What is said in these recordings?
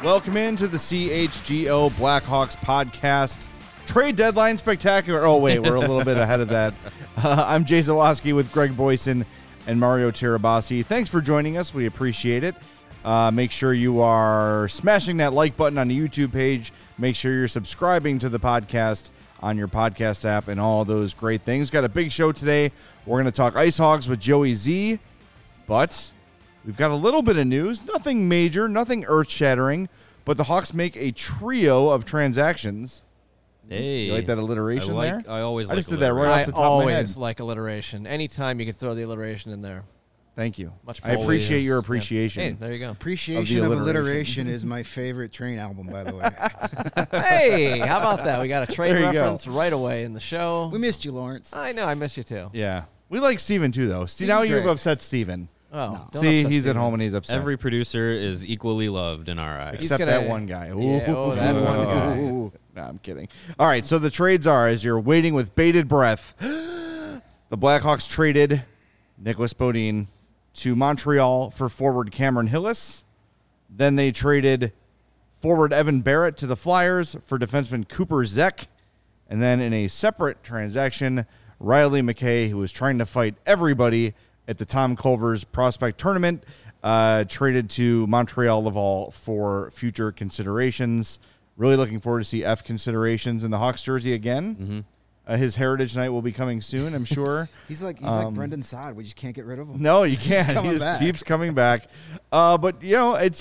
Welcome into the CHGO Blackhawks podcast. Trade deadline spectacular. Oh, wait, we're a little bit ahead of that. I'm Jay Zawoski with Greg Boyson and Mario Tirabassi. Thanks for joining us. We appreciate it. Make sure you are smashing that like button on the YouTube page. Make sure you're subscribing to the podcast on your podcast app and all those great things. Got a big show today. We're going to talk Ice Hogs with Joey Z, but we've got a little bit of news. Nothing major, nothing earth-shattering, but the Hawks make a trio of transactions. Hey, you like that alliteration there? I always like just did that right off the top of my head. I always like alliteration. Anytime you can throw the alliteration in there. Thank you. Much I appreciate your appreciation. Yeah. Hey, there you go. Appreciation of alliteration is my favorite Train album, by the way. Hey, how about that? We got a Train reference right away in the show. We missed you, Lawrence. I know, I miss you too. Yeah. We like Steven too, though. Now you've upset Steven. Oh, no. See, he's at home and he's upset. Every producer is equally loved in our eyes. Except that one guy. Yeah, that one guy. No, I'm kidding. All right, so the trades are, as you're waiting with bated breath, the Blackhawks traded Nicholas Bodin to Montreal for forward Cameron Hillis. Then they traded forward Evan Barrett to the Flyers for defenseman Cooper Zek. And then in a separate transaction, Riley McKay, who was trying to fight everybody at the Tom Culver's prospect tournament, traded to Montreal Laval for future considerations. Really looking forward to see F considerations in the Hawks jersey again. Mm-hmm. His Heritage Night will be coming soon, I'm sure. he's like Brendan Saad. We just can't get rid of him. No, you can't. He just keeps coming back. But you know, it's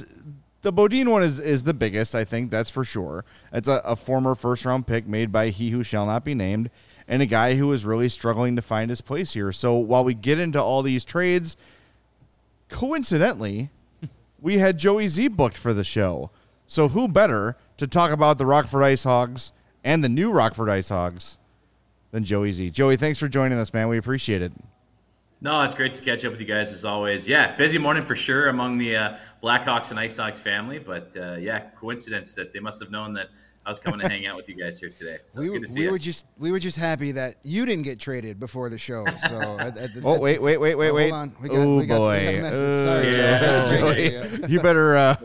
the Bodin one is the biggest. I think that's for sure. It's a former first round pick made by he who shall not be named, and a guy who is really struggling to find his place here. So while we get into all these trades, coincidentally, we had Joey Z booked for the show. So who better to talk about the Rockford Ice Hogs and the new Rockford Ice Hogs than Joey Z. Joey, thanks for joining us, man. We appreciate it. No, it's great to catch up with you guys as always. Yeah, busy morning for sure among the Blackhawks and Ice Hogs family, but yeah, coincidence that they must have known that I was coming to hang out with you guys here today. So we were just happy that you didn't get traded before the show. So wait. Hold on. We got a message. Sorry, Joe. You better.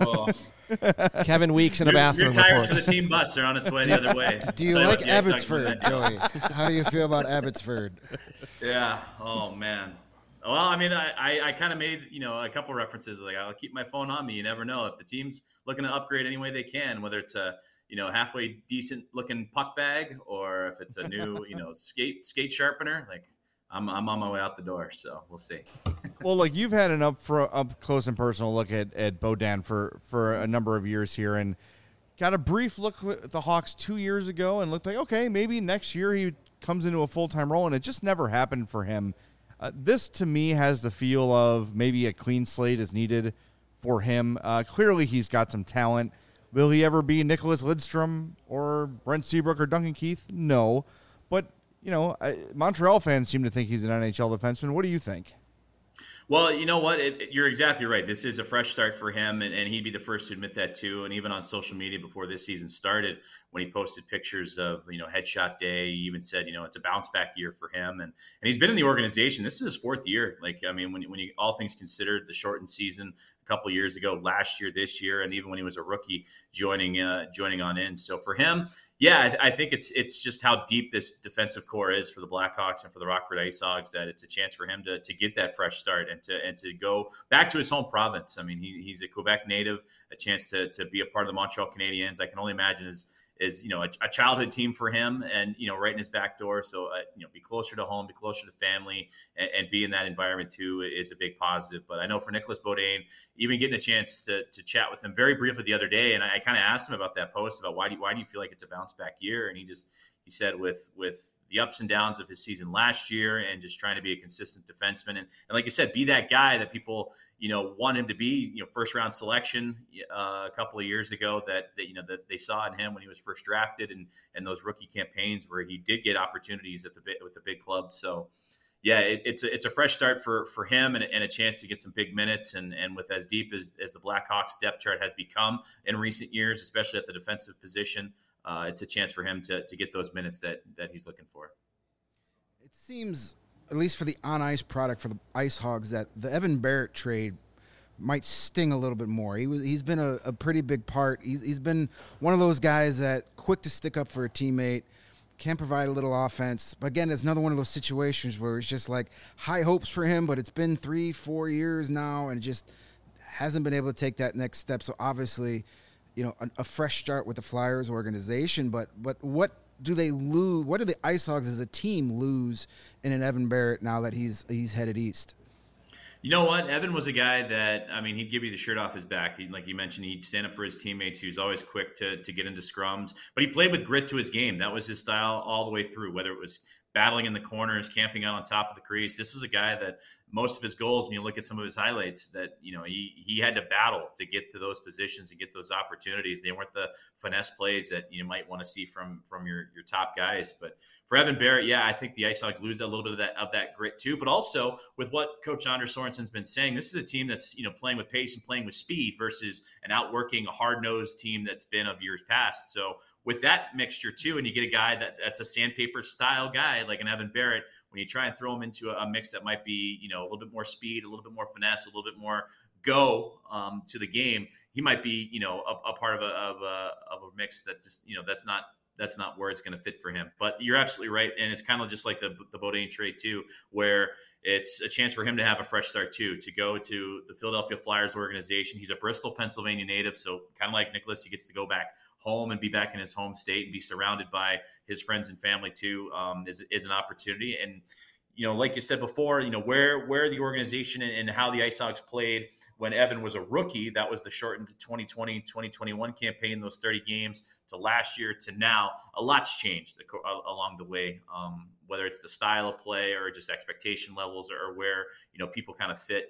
Kevin Weeks in a bathroom. Your tires for the team bus are on its way the other way. Do you like Abbotsford, Joey? How do you feel about Abbotsford? Yeah. Oh man. Well, I mean, I kind of made a couple references. Like, I'll keep my phone on me. You never know if the team's looking to upgrade any way they can, whether it's a halfway decent looking puck bag or if it's a new skate sharpener. Like, I'm on my way out the door, so we'll see. Well, look, you've had an up close and personal look at Bodin for a number of years here, and got a brief look at the Hawks 2 years ago, and looked like, okay, maybe next year he comes into a full-time role, and it just never happened for him. This, to me, has the feel of maybe a clean slate is needed for him. Clearly, he's got some talent. Will he ever be Nicholas Lidstrom or Brent Seabrook or Duncan Keith? No, but Montreal fans seem to think he's an NHL defenseman. What do you think? Well, you know what? You're exactly right. This is a fresh start for him, and he'd be the first to admit that too. And even on social media before this season started, when he posted pictures of headshot day, he even said it's a bounce back year for him. And he's been in the organization. This is his fourth year. Like, I mean, when you all things considered, the shortened season a couple of years ago, last year, this year, and even when he was a rookie, joining on in. So for him, yeah, I think it's just how deep this defensive core is for the Blackhawks and for the Rockford Ice Hogs that it's a chance for him to get that fresh start and to go back to his home province. I mean, he's a Quebec native, a chance to be a part of the Montreal Canadiens. I can only imagine is a childhood team for him, and right in his back door. So be closer to home, be closer to family, and be in that environment too is a big positive. But I know for Nicholas Bodin, even getting a chance to chat with him very briefly the other day, and I kind of asked him about that post about why do you feel like it's a bounce back year, and he said with the ups and downs of his season last year and just trying to be a consistent defenseman. And like you said, be that guy that people, want him to be, first round selection a couple of years ago that they saw in him when he was first drafted and those rookie campaigns where he did get opportunities with the big club. So yeah, it's a fresh start for him and a chance to get some big minutes. And with as deep as the Blackhawks depth chart has become in recent years, especially at the defensive position, it's a chance for him to get those minutes that he's looking for. It seems, at least for the on-ice product for the Ice Hogs, that the Evan Barrett trade might sting a little bit more. He's been a pretty big part. He's been one of those guys that quick to stick up for a teammate, can provide a little offense. But again, it's another one of those situations where it's just like high hopes for him, but it's been 3-4 years now and just hasn't been able to take that next step. So obviously, a fresh start with the Flyers organization. But what do they lose? What do the Ice Hogs as a team lose in an Evan Barratt now that he's headed east? You know what? Evan was a guy that, he'd give you the shirt off his back. Like you mentioned, he'd stand up for his teammates. He was always quick to get into scrums. But he played with grit to his game. That was his style all the way through, whether it was battling in the corners, camping out on top of the crease. This is a guy that most of his goals, when you look at some of his highlights, that he had to battle to get to those positions and get those opportunities. They weren't the finesse plays that you might want to see from your top guys. But for Evan Barratt, I think the Ice Hogs lose a little bit of that grit too. But also with what Coach Anders Sorensen's been saying, this is a team that's playing with pace and playing with speed versus an outworking, a hard-nosed team that's been of years past. So with that mixture too, and you get a guy that's a sandpaper style guy like an Evan Barratt, when you try and throw him into a mix that might be, a little bit more speed, a little bit more finesse, a little bit more go to the game, he might be, a part of a mix that just, that's not where it's going to fit for him. But you're absolutely right, and it's kind of just like the Beaudin trade too, where it's a chance for him to have a fresh start too, to go to the Philadelphia Flyers organization. He's a Bristol, Pennsylvania native, so kind of like Nicholas, he gets to go back home and be back in his home state and be surrounded by his friends and family too, is an opportunity. And like you said before, where the organization and how the Ice Hogs played when Evan was a rookie, that was the shortened 2020-2021 campaign, those 30 games, to last year to now. A lot's changed along the way, whether it's the style of play or just expectation levels or where people kind of fit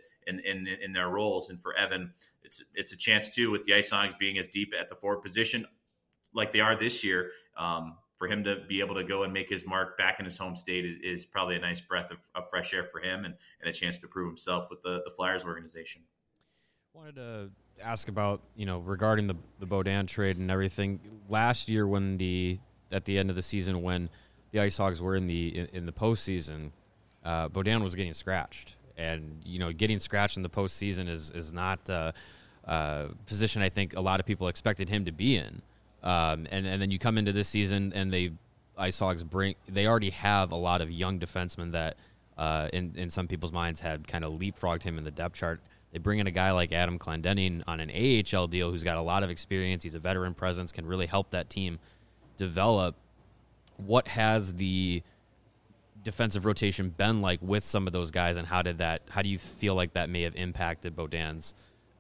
in their roles. And for Evan, it's a chance too, with the Ice Hogs being as deep at the forward position like they are this year, for him to be able to go and make his mark back in his home state is probably a nice breath of fresh air for him and a chance to prove himself with the Flyers organization. Wanted to ask about, regarding the Beaudin trade and everything. Last year at the end of the season when the Ice Hogs were in the postseason, Beaudin was getting scratched. And, getting scratched in the postseason is not a position I think a lot of people expected him to be in. And then you come into this season and the Ice Hogs they already have a lot of young defensemen that in some people's minds had kind of leapfrogged him in the depth chart. They bring in a guy like Adam Clendening on an AHL deal who's got a lot of experience. He's a veteran presence, can really help that team develop. What has the defensive rotation been like with some of those guys, and how do you feel like that may have impacted Beaudin's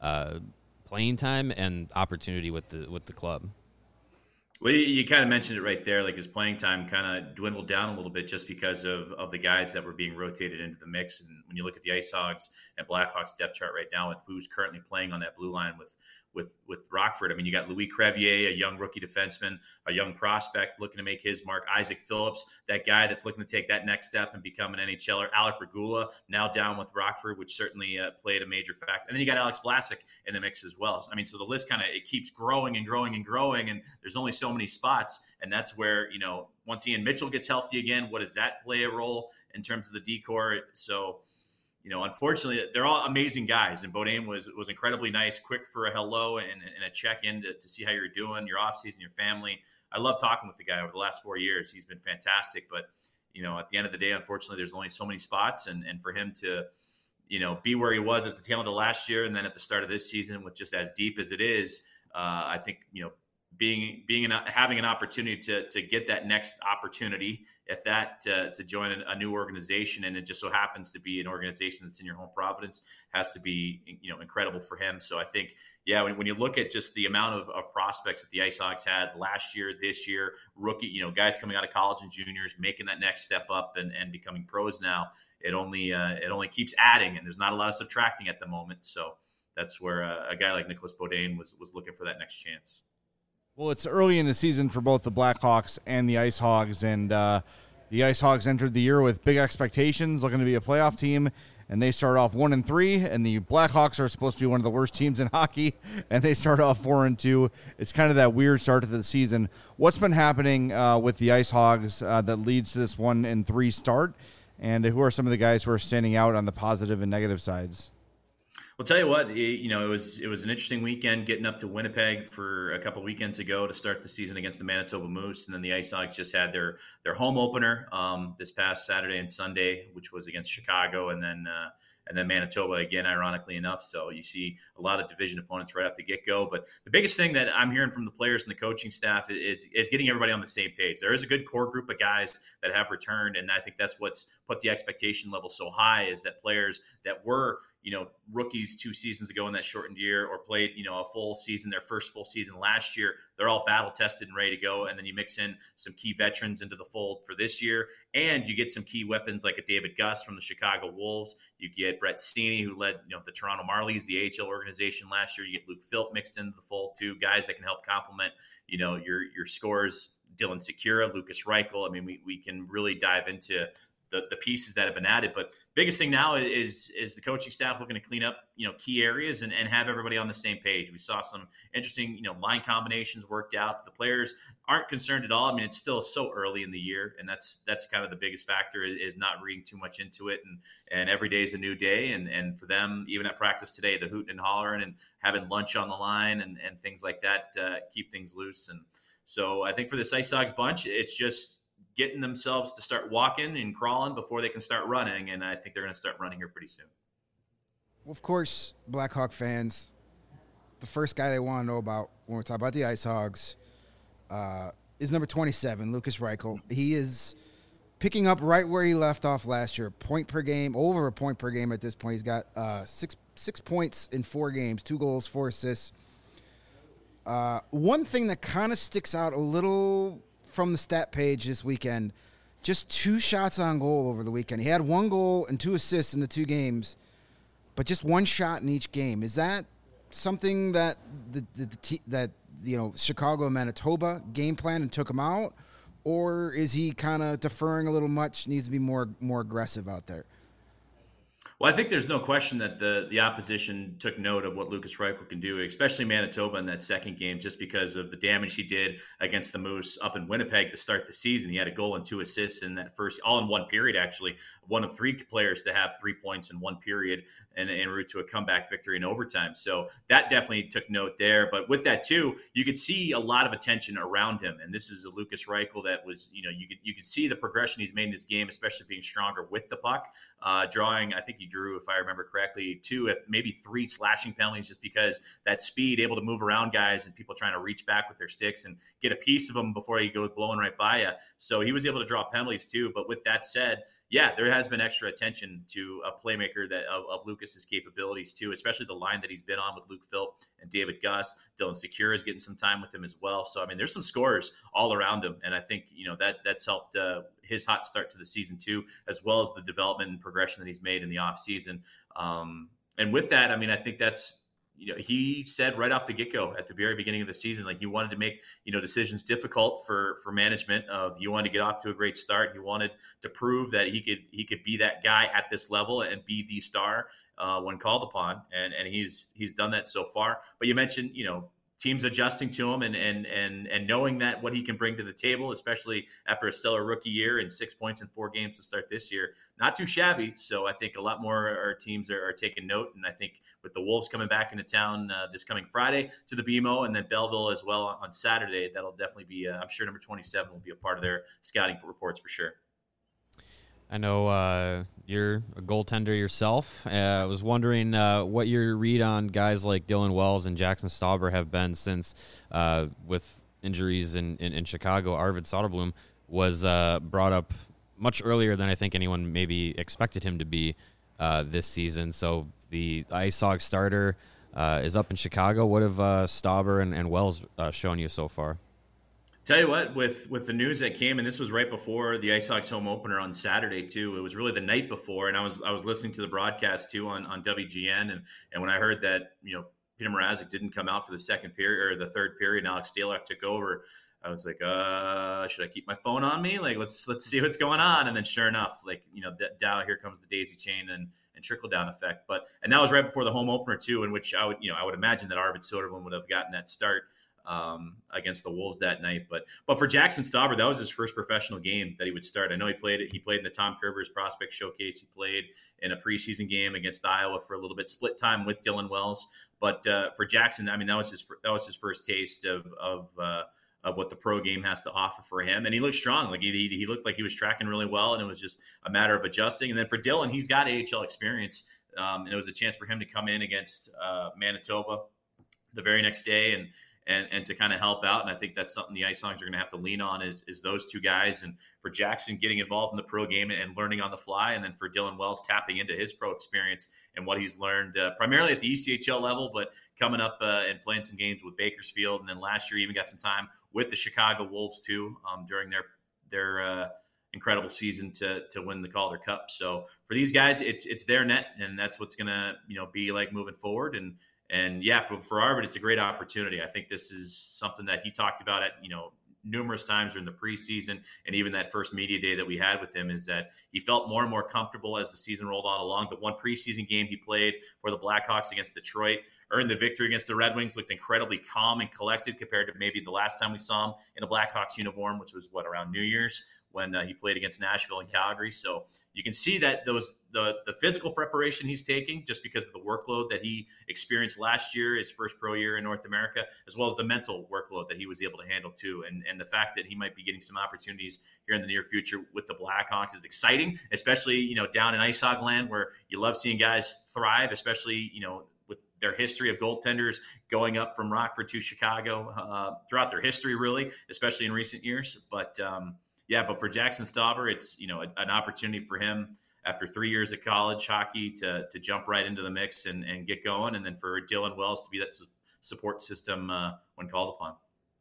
playing time and opportunity with the club? Well, you kind of mentioned it right there. Like his playing time kind of dwindled down a little bit just because of the guys that were being rotated into the mix. And when you look at the Ice Hogs and Blackhawks depth chart right now with who's currently playing on that blue line with Rockford, you got Louis Crevier, a young rookie defenseman, a young prospect looking to make his mark. Isaac Phillips, that guy that's looking to take that next step and become an NHLer. Alec Regula, now down with Rockford, which certainly played a major factor. And then you got Alex Vlasic in the mix as well. So the list it keeps growing and growing and growing, and there's only so many spots. And that's where, once Ian Mitchell gets healthy again, what does that play a role in terms of the decor? So, unfortunately, they're all amazing guys. And Beaudin was incredibly nice, quick for a hello and a check-in to see how you're doing, your off-season, your family. I love talking with the guy over the last 4 years. He's been fantastic. But, at the end of the day, unfortunately, there's only so many spots. And for him to, be where he was at the tail end of last year and then at the start of this season with just as deep as it is, I think, having an opportunity to get that next opportunity, if that to join a new organization, and it just so happens to be an organization that's in your home province, has to be incredible for him. So I think when you look at just the amount of prospects that the Ice Hogs had last year, this year, rookie guys coming out of college and juniors making that next step up and becoming pros now, it only keeps adding, and there's not a lot of subtracting at the moment. So that's where a guy like Nicholas Beaudin was looking for that next chance. Well, it's early in the season for both the Blackhawks and the Ice Hogs, and the Ice Hogs entered the year with big expectations, looking to be a playoff team, and they start off 1-3, and the Blackhawks are supposed to be one of the worst teams in hockey, and they start off 4-2. It's kind of that weird start to the season. What's been happening with the Ice Hogs that leads to this 1-3 start, and who are some of the guys who are standing out on the positive and negative sides? Well, tell you what, it was an interesting weekend getting up to Winnipeg for a couple weekends ago to start the season against the Manitoba Moose, and then the Ice Hogs just had their home opener this past Saturday and Sunday, which was against Chicago, and then Manitoba again, ironically enough. So you see a lot of division opponents right off the get-go. But the biggest thing that I'm hearing from the players and the coaching staff is getting everybody on the same page. There is a good core group of guys that have returned, and I think that's what's put the expectation level so high, is that players that were rookies 2 seasons ago in that shortened year, or played, a full season, their first full season last year, they're all battle tested and ready to go. And then you mix in some key veterans into the fold for this year, and you get some key weapons like a David Gus from the Chicago Wolves. You get Brett Sini, who led, the Toronto Marlies, the AHL organization last year. You get Luke Philp mixed into the fold too, guys that can help complement, your scores. Dylan Secura, Lucas Reichel. I mean, we can really dive into the pieces that have been added. But biggest thing now is the coaching staff looking to clean up, key areas and have everybody on the same page. We saw some interesting, line combinations worked out. The players aren't concerned at all. I mean, it's still so early in the year, and that's kind of the biggest factor, is not reading too much into it. And every day is a new day. And for them, even at practice today, the hooting and hollering and having lunch on the line and things like that, keep things loose. And so I think for this Ice Hogs bunch, it's just getting themselves to start walking and crawling before they can start running. And I think they're going to start running here pretty soon. Well, of course, Blackhawk fans, the first guy they want to know about when we talk about the Ice Hogs is number 27, Lucas Reichel. He is picking up right where he left off last year, point per game, over a point per game at this point. He's got six points in 4 games, 2 goals, 4 assists. One thing that kind of sticks out a little from the stat page this weekend, just 2 shots on goal over the weekend. He had 1 goal and 2 assists in the 2 games, but just 1 shot in each game. Is that something that Chicago and Manitoba game plan and took him out, or is he kind of deferring a little much, needs to be more aggressive out there? Well, I think there's no question that the opposition took note of what Lucas Reichel can do, especially Manitoba in that second game, just because of the damage he did against the Moose up in Winnipeg to start the season. He had a goal and 2 assists in that first, all in 1 period, actually. One of 3 players to have 3 points in 1 period and en route to a comeback victory in overtime. So that definitely took note there. But with that, too, you could see a lot of attention around him. And this is a Lucas Reichel that was, you could see the progression he's made in his game, especially being stronger with the puck, drawing, I think he drew, if I remember correctly, 2, maybe 3 slashing penalties, just because that speed, able to move around guys and people trying to reach back with their sticks and get a piece of them before he goes blowing right by you. So he was able to draw penalties too. But with that said, yeah, there has been extra attention to a playmaker of Lucas's capabilities too, especially the line that he's been on with Luke Philp and David Gus. Dylan Secura is getting some time with him as well. So, I mean, there's some scorers all around him. And I think, that's helped his hot start to the season too, as well as the development and progression that he's made in the offseason. And with that, I mean, I think that's, he said right off the get-go at the very beginning of the season, like, he wanted to make, decisions difficult for management. He wanted to get off to a great start. He wanted to prove that he could be that guy at this level and be the star when called upon. And he's done that so far. But you mentioned, teams adjusting to him and knowing that what he can bring to the table, especially after a stellar rookie year and 6 points in 4 games to start this year, not too shabby. So I think a lot more our teams are taking note. And I think with the Wolves coming back into town this coming Friday to the BMO, and then Belleville as well on Saturday, that'll definitely be, I'm sure number 27 will be a part of their scouting reports for sure. I know you're a goaltender yourself. I was wondering what your read on guys like Dylan Wells and Jackson Stauber have been since, with injuries in Chicago, Arvid Soderblom was brought up much earlier than I think anyone maybe expected him to be this season. So the Ice Hogs starter is up in Chicago. What have Stauber and Wells shown you so far? Tell you what, with the news that came, and this was right before the Ice Hogs home opener on Saturday too. It was really the night before, and I was listening to the broadcast too on WGN, and when I heard that Peter Mrazek didn't come out for the second period or the third period, and Alex Stalock took over, I was like, should I keep my phone on me? Like, let's see what's going on. And then sure enough, like, Dow, here comes the daisy chain and trickle down effect. And that was right before the home opener too, in which I would imagine that Arvid Soderblom would have gotten that start against the Wolves that night. But for Jackson Stauber, that was his first professional game that he would start. I know he played in the Tom Curvers Prospect Showcase. He played in a preseason game against Iowa for a little bit, split time with Dylan Wells. But for Jackson, I mean, that was his first taste of what the pro game has to offer for him. And he looked strong. Like he looked like he was tracking really well, and it was just a matter of adjusting. And then for Dylan, he's got AHL experience. And it was a chance for him to come in against Manitoba the very next day and to kind of help out. And I think that's something the Ice Hogs are going to have to lean on is those two guys. And for Jackson getting involved in the pro game and learning on the fly. And then for Dylan Wells tapping into his pro experience and what he's learned primarily at the ECHL level, but coming up and playing some games with Bakersfield. And then last year, even got some time with the Chicago Wolves too during their incredible season to win the Calder Cup. So for these guys, it's their net, and that's what's going to be like moving forward. And yeah, for Arvid, it's a great opportunity. I think this is something that he talked about at numerous times during the preseason, and even that first media day that we had with him, is that he felt more and more comfortable as the season rolled on along. The one preseason game he played for the Blackhawks against Detroit, earned the victory against the Red Wings, looked incredibly calm and collected compared to maybe the last time we saw him in a Blackhawks uniform, which was around New Year's, when he played against Nashville and Calgary. So you can see that the physical preparation he's taking, just because of the workload that he experienced last year, his first pro year in North America, as well as the mental workload that he was able to handle too. And the fact that he might be getting some opportunities here in the near future with the Blackhawks is exciting, especially, down in Ice Hog land, where you love seeing guys thrive, especially, with their history of goaltenders going up from Rockford to Chicago throughout their history, really, especially in recent years. But but for Jackson Stauber, it's an opportunity for him after 3 years of college hockey to jump right into the mix and get going, and then for Dylan Wells to be that support system when called upon.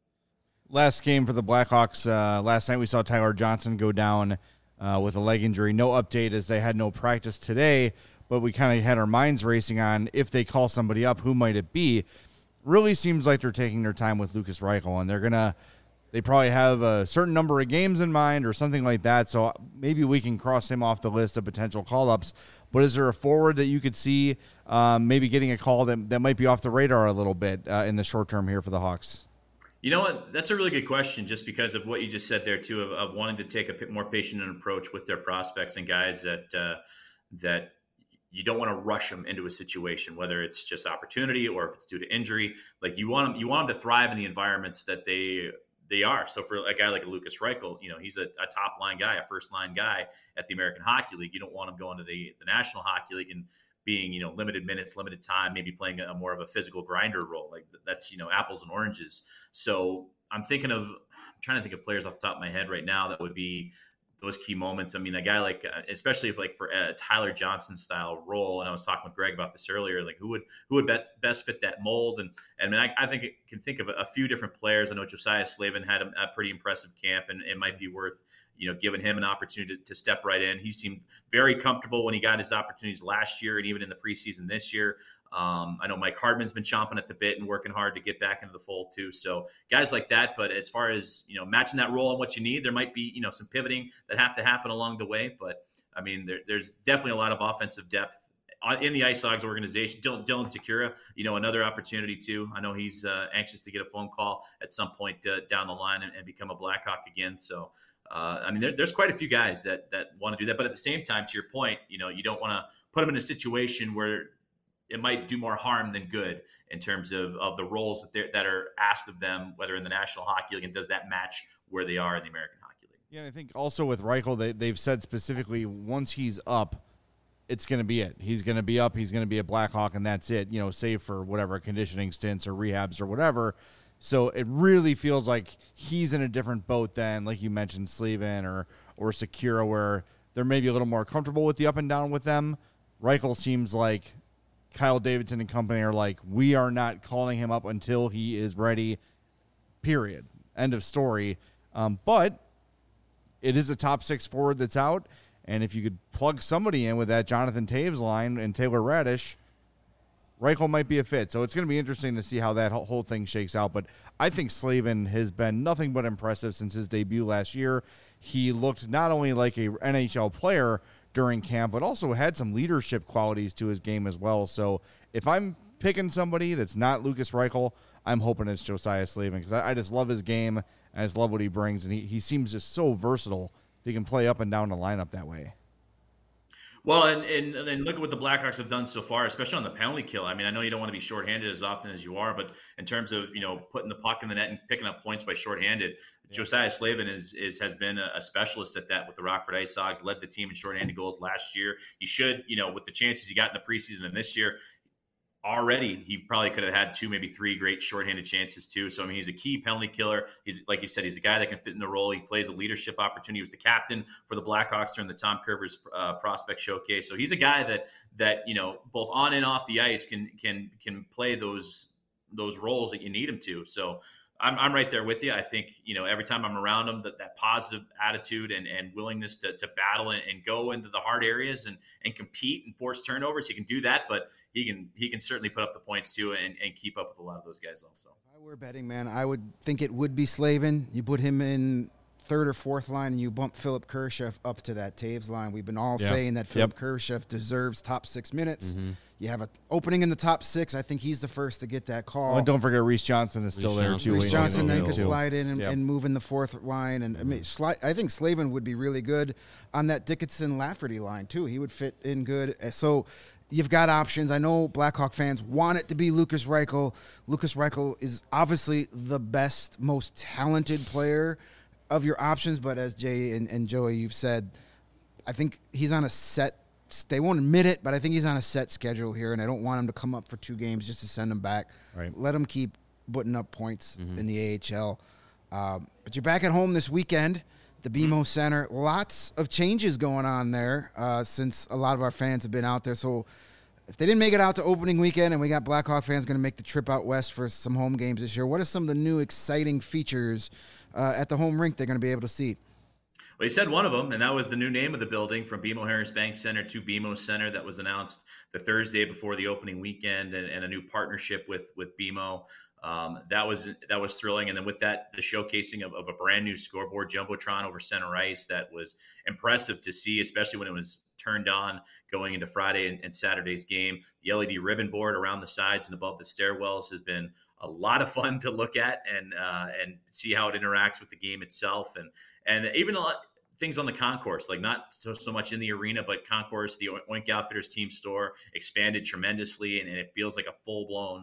Last game for the Blackhawks. Last night we saw Tyler Johnson go down with a leg injury. No update as they had no practice today, but we kind of had our minds racing on if they call somebody up, who might it be? Really seems like they're taking their time with Lukas Reichel, and they probably have a certain number of games in mind or something like that, so maybe we can cross him off the list of potential call-ups. But is there a forward that you could see maybe getting a call that might be off the radar a little bit in the short term here for the Hawks? You know what? That's a really good question, just because of what you just said there, too, of wanting to take a more patient approach with their prospects and guys that you don't want to rush them into a situation, whether it's just opportunity or if it's due to injury. Like you want them to thrive in the environments that they are. So for a guy like Lukas Reichel, he's a top line guy, a first line guy at the American Hockey League. You don't want him going to the National Hockey League and being, limited minutes, limited time, maybe playing a more of a physical grinder role. Like that's, apples and oranges. So I'm trying to think of players off the top of my head right now that would be those key moments. I mean, a guy like, especially if for a Tyler Johnson style role, and I was talking with Greg about this earlier, like who would best fit that mold? And I mean, I think it can think of a few different players. I know Josiah Slavin had a pretty impressive camp, and it might be worth, giving him an opportunity to step right in. He seemed very comfortable when he got his opportunities last year and even in the preseason this year. I know Mike Hardman's been chomping at the bit and working hard to get back into the fold too. So guys like that, but as far as, matching that role and what you need, there might be, some pivoting that have to happen along the way. But I mean, there's definitely a lot of offensive depth in the Ice Hogs organization. Dylan Sikura, another opportunity too. I know he's anxious to get a phone call at some point down the line and become a Blackhawk again. So, I mean, there's quite a few guys that want to do that. But at the same time, to your point, you don't want to put them in a situation where it might do more harm than good in terms of the roles that are asked of them, whether in the National Hockey League, and does that match where they are in the American Hockey League? Yeah, and I think also with Reichel, they've said specifically once he's up, it's going to be it. He's going to be up. He's going to be a Blackhawk, and that's it, save for whatever conditioning stints or rehabs or whatever. So it really feels like he's in a different boat than, like you mentioned, Slavin or Sikura, where they're maybe a little more comfortable with the up and down with them. Reichel seems like Kyle Davidson and company are like, we are not calling him up until he is ready, period. End of story. But it is a top six forward that's out, and if you could plug somebody in with that Jonathan Taves line and Taylor Radish, Reichel might be a fit. So it's going to be interesting to see how that whole thing shakes out. But I think Slavin has been nothing but impressive since his debut last year. He looked not only like a NHL player during camp, but also had some leadership qualities to his game as well. So if I'm picking somebody that's not Lukas Reichel, I'm hoping it's Josiah Slavin because I just love his game and I just love what he brings, and he seems just so versatile. He can play up and down the lineup that way. Well, and look at what the Blackhawks have done so far, especially on the penalty kill. I mean, I know you don't want to be shorthanded as often as you are, but in terms of, putting the puck in the net and picking up points by shorthanded, Josiah Slavin has been a specialist at that with the Rockford Ice Hogs, led the team in shorthanded goals last year. He should, with the chances he got in the preseason and this year, already he probably could have had 2, maybe 3 great shorthanded chances too. So I mean, he's a key penalty killer. He's, like you said, he's a guy that can fit in the role. He plays a leadership opportunity. He was the captain for the Blackhawks during the Tom Curvers prospect showcase. So he's a guy that both on and off the ice can play those roles that you need him to. So I'm right there with you. I think, every time I'm around him, that positive attitude and willingness to battle and go into the hard areas and compete and force turnovers, he can do that, but he can certainly put up the points too and keep up with a lot of those guys also. If I were betting, man, I would think it would be Slavin. You put him in third or fourth line and you bump Philip Kurashev up to that Taves line. We've been all saying that Philip Kurashev deserves top 6 minutes. Mm-hmm. You have an opening in the top 6. I think he's the first to get that call. Oh, and don't forget Reese Johnson is still there too. Reese Johnson then could slide in and move in the fourth line. And I mean, I think Slavin would be really good on that Dickinson-Lafferty line too. He would fit in good. So you've got options. I know Blackhawk fans want it to be Lukas Reichel. Lukas Reichel is obviously the best, most talented player of your options. But as Jay and Joey, you've said, I think he's on a set. They won't admit it, but I think he's on a set schedule here, and I don't want him to come up for 2 games just to send him back. Right. Let him keep putting up points in the AHL. But you're back at home this weekend, the BMO Center. Lots of changes going on there since a lot of our fans have been out there. So if they didn't make it out to opening weekend and we got Blackhawk fans going to make the trip out west for some home games this year, what are some of the new exciting features at the home rink they're going to be able to see? Well, he said one of them, and that was the new name of the building from BMO Harris Bank Center to BMO Center that was announced the Thursday before the opening weekend, and a new partnership with BMO. That was thrilling. And then with that, the showcasing of a brand new scoreboard Jumbotron over center ice that was impressive to see, especially when it was turned on going into Friday and Saturday's game. The LED ribbon board around the sides and above the stairwells has been a lot of fun to look at and see how it interacts with the game itself, and even a lot things on the concourse, like not so much in the arena, but concourse, the Oink Outfitters team store expanded tremendously, and it feels like a full-blown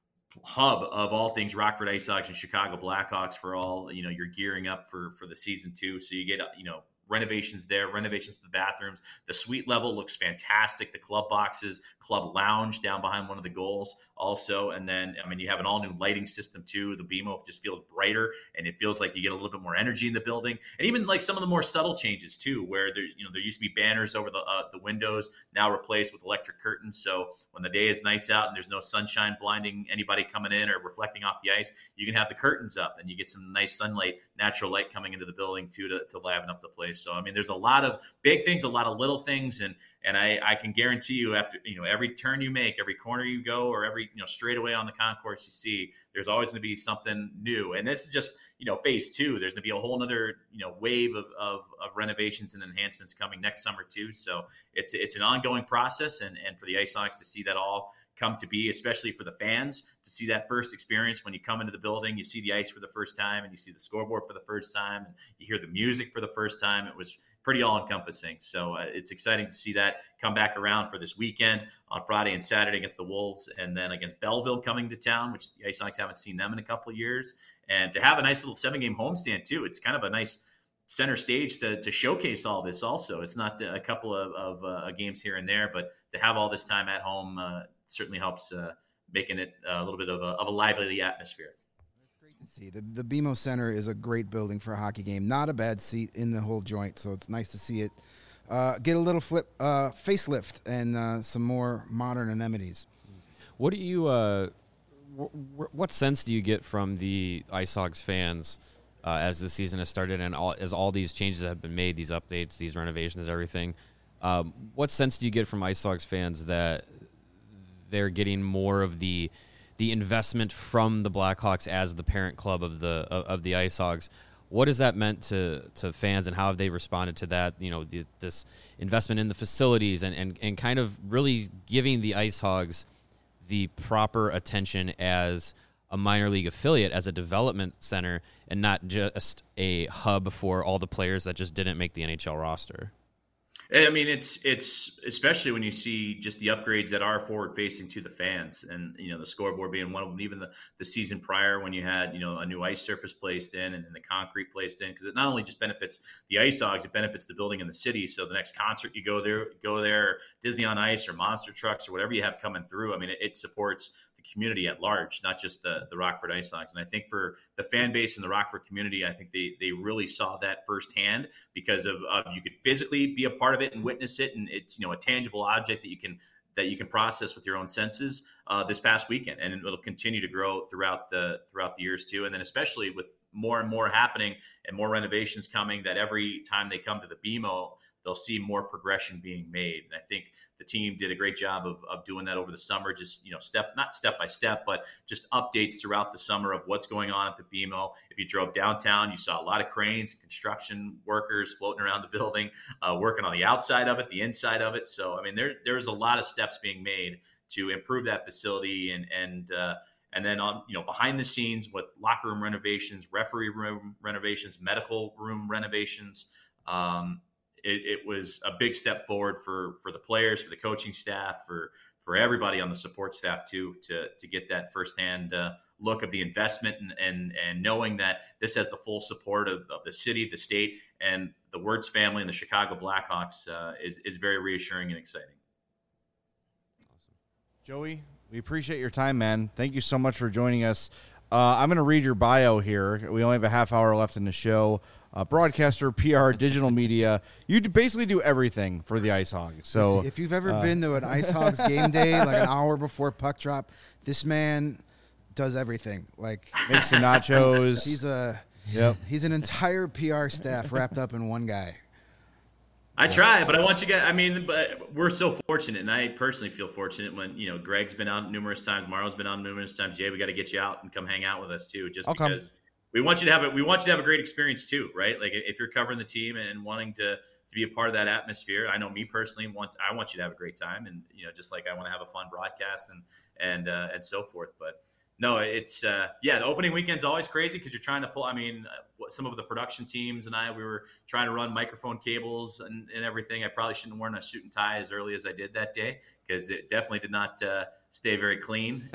hub of all things Rockford Ice Hogs and Chicago Blackhawks for all, you're gearing up for the season 2. So you get, renovations there, renovations to the bathrooms. The suite level looks fantastic. The club boxes, club lounge down behind one of the goals also. And then, you have an all new lighting system too. The BMO just feels brighter, and it feels like you get a little bit more energy in the building. And even like some of the more subtle changes too, where there used to be banners over the windows, now replaced with electric curtains. So when the day is nice out and there's no sunshine blinding anybody coming in or reflecting off the ice, you can have the curtains up and you get some nice sunlight, natural light coming into the building too to liven up the place. So, there's a lot of big things, a lot of little things. And I can guarantee you after, every turn you make, every corner you go, or every, straightaway on the concourse you see, there's always going to be something new. And this is just, phase 2. There's going to be a whole nother, wave of renovations and enhancements coming next summer too. So it's an ongoing process. And for the Ice Hogs to see that all come to be, especially for the fans, to see that first experience when you come into the building, you see the ice for the first time and you see the scoreboard for the first time and you hear the music for the first time. It was pretty all-encompassing. So it's exciting to see that come back around for this weekend on Friday and Saturday against the Wolves, and then against Belleville coming to town, which the Ice Hogs haven't seen them in a couple of years. And to have a nice little 7-game homestand too, it's kind of a nice center stage to showcase all this also. It's not a couple of games here and there, but to have all this time at home certainly helps making it a little bit of a lively atmosphere. That's great to see. The BMO Center is a great building for a hockey game. Not a bad seat in the whole joint, so it's nice to see it get a little facelift and some more modern amenities. What do you what sense do you get from the Ice Hogs fans as the season has started and as all these changes have been made, these updates, these renovations, everything? What sense do you get from Ice Hogs fans that they're getting more of the investment from the Blackhawks as the parent club of the Ice Hogs? What has that meant to fans, and how have they responded to that? This investment in the facilities and kind of really giving the Ice Hogs the proper attention as a minor league affiliate as a development center and not just a hub for all the players that just didn't make the NHL roster. I mean, it's especially when you see just the upgrades that are forward facing to the fans, and the scoreboard being one of them. Even the season prior, when you had a new ice surface placed in and the concrete placed in, because it not only just benefits the Ice Hogs, it benefits the building and the city. So the next concert you go there, Disney on Ice or Monster Trucks or whatever you have coming through. I mean, it supports the community at large, not just the Rockford Ice Hogs. And I think for the fan base in the Rockford community, I think they really saw that firsthand because of you could physically be a part of it and witness it, and it's a tangible object that you can process with your own senses this past weekend, and it'll continue to grow throughout the years too. And then especially with more and more happening and more renovations coming, that every time they come to the BMO, they'll see more progression being made. And I think the team did a great job of doing that over the summer, just, not step by step, but just updates throughout the summer of what's going on at the BMO. If you drove downtown, you saw a lot of cranes and construction workers floating around the building, working on the outside of it, the inside of it. So, I mean, there's a lot of steps being made to improve that facility and then on, behind the scenes with locker room renovations, referee room renovations, medical room renovations. It was a big step forward for the players, for the coaching staff, for everybody on the support staff too, to get that firsthand look of the investment and knowing that this has the full support of the city, the state, and the Wirtz family and the Chicago Blackhawks is very reassuring and exciting. Joey, we appreciate your time, man. Thank you so much for joining us. I'm going to read your bio here. We only have a half hour left in the show. Broadcaster, PR, digital media. You basically do everything for the Ice Hogs. So if you've ever been to an Ice Hogs game day, like an hour before puck drop, this man does everything. Like makes the nachos. He's an entire PR staff wrapped up in one guy. I try, but I want you guys. But we're so fortunate, and I personally feel fortunate when Greg's been out numerous times, Mario's been out numerous times. Jay, we got to get you out and come hang out with us too, because we want you to have a great experience too, right? Like if you're covering the team and wanting to be a part of that atmosphere. I know me personally I want you to have a great time, and just like I want to have a fun broadcast and so forth. But no, it's the opening weekend's always crazy because you're trying to pull. Some of the production teams and we were trying to run microphone cables and everything. I probably shouldn't have worn a suit and tie as early as I did that day because it definitely did not stay very clean.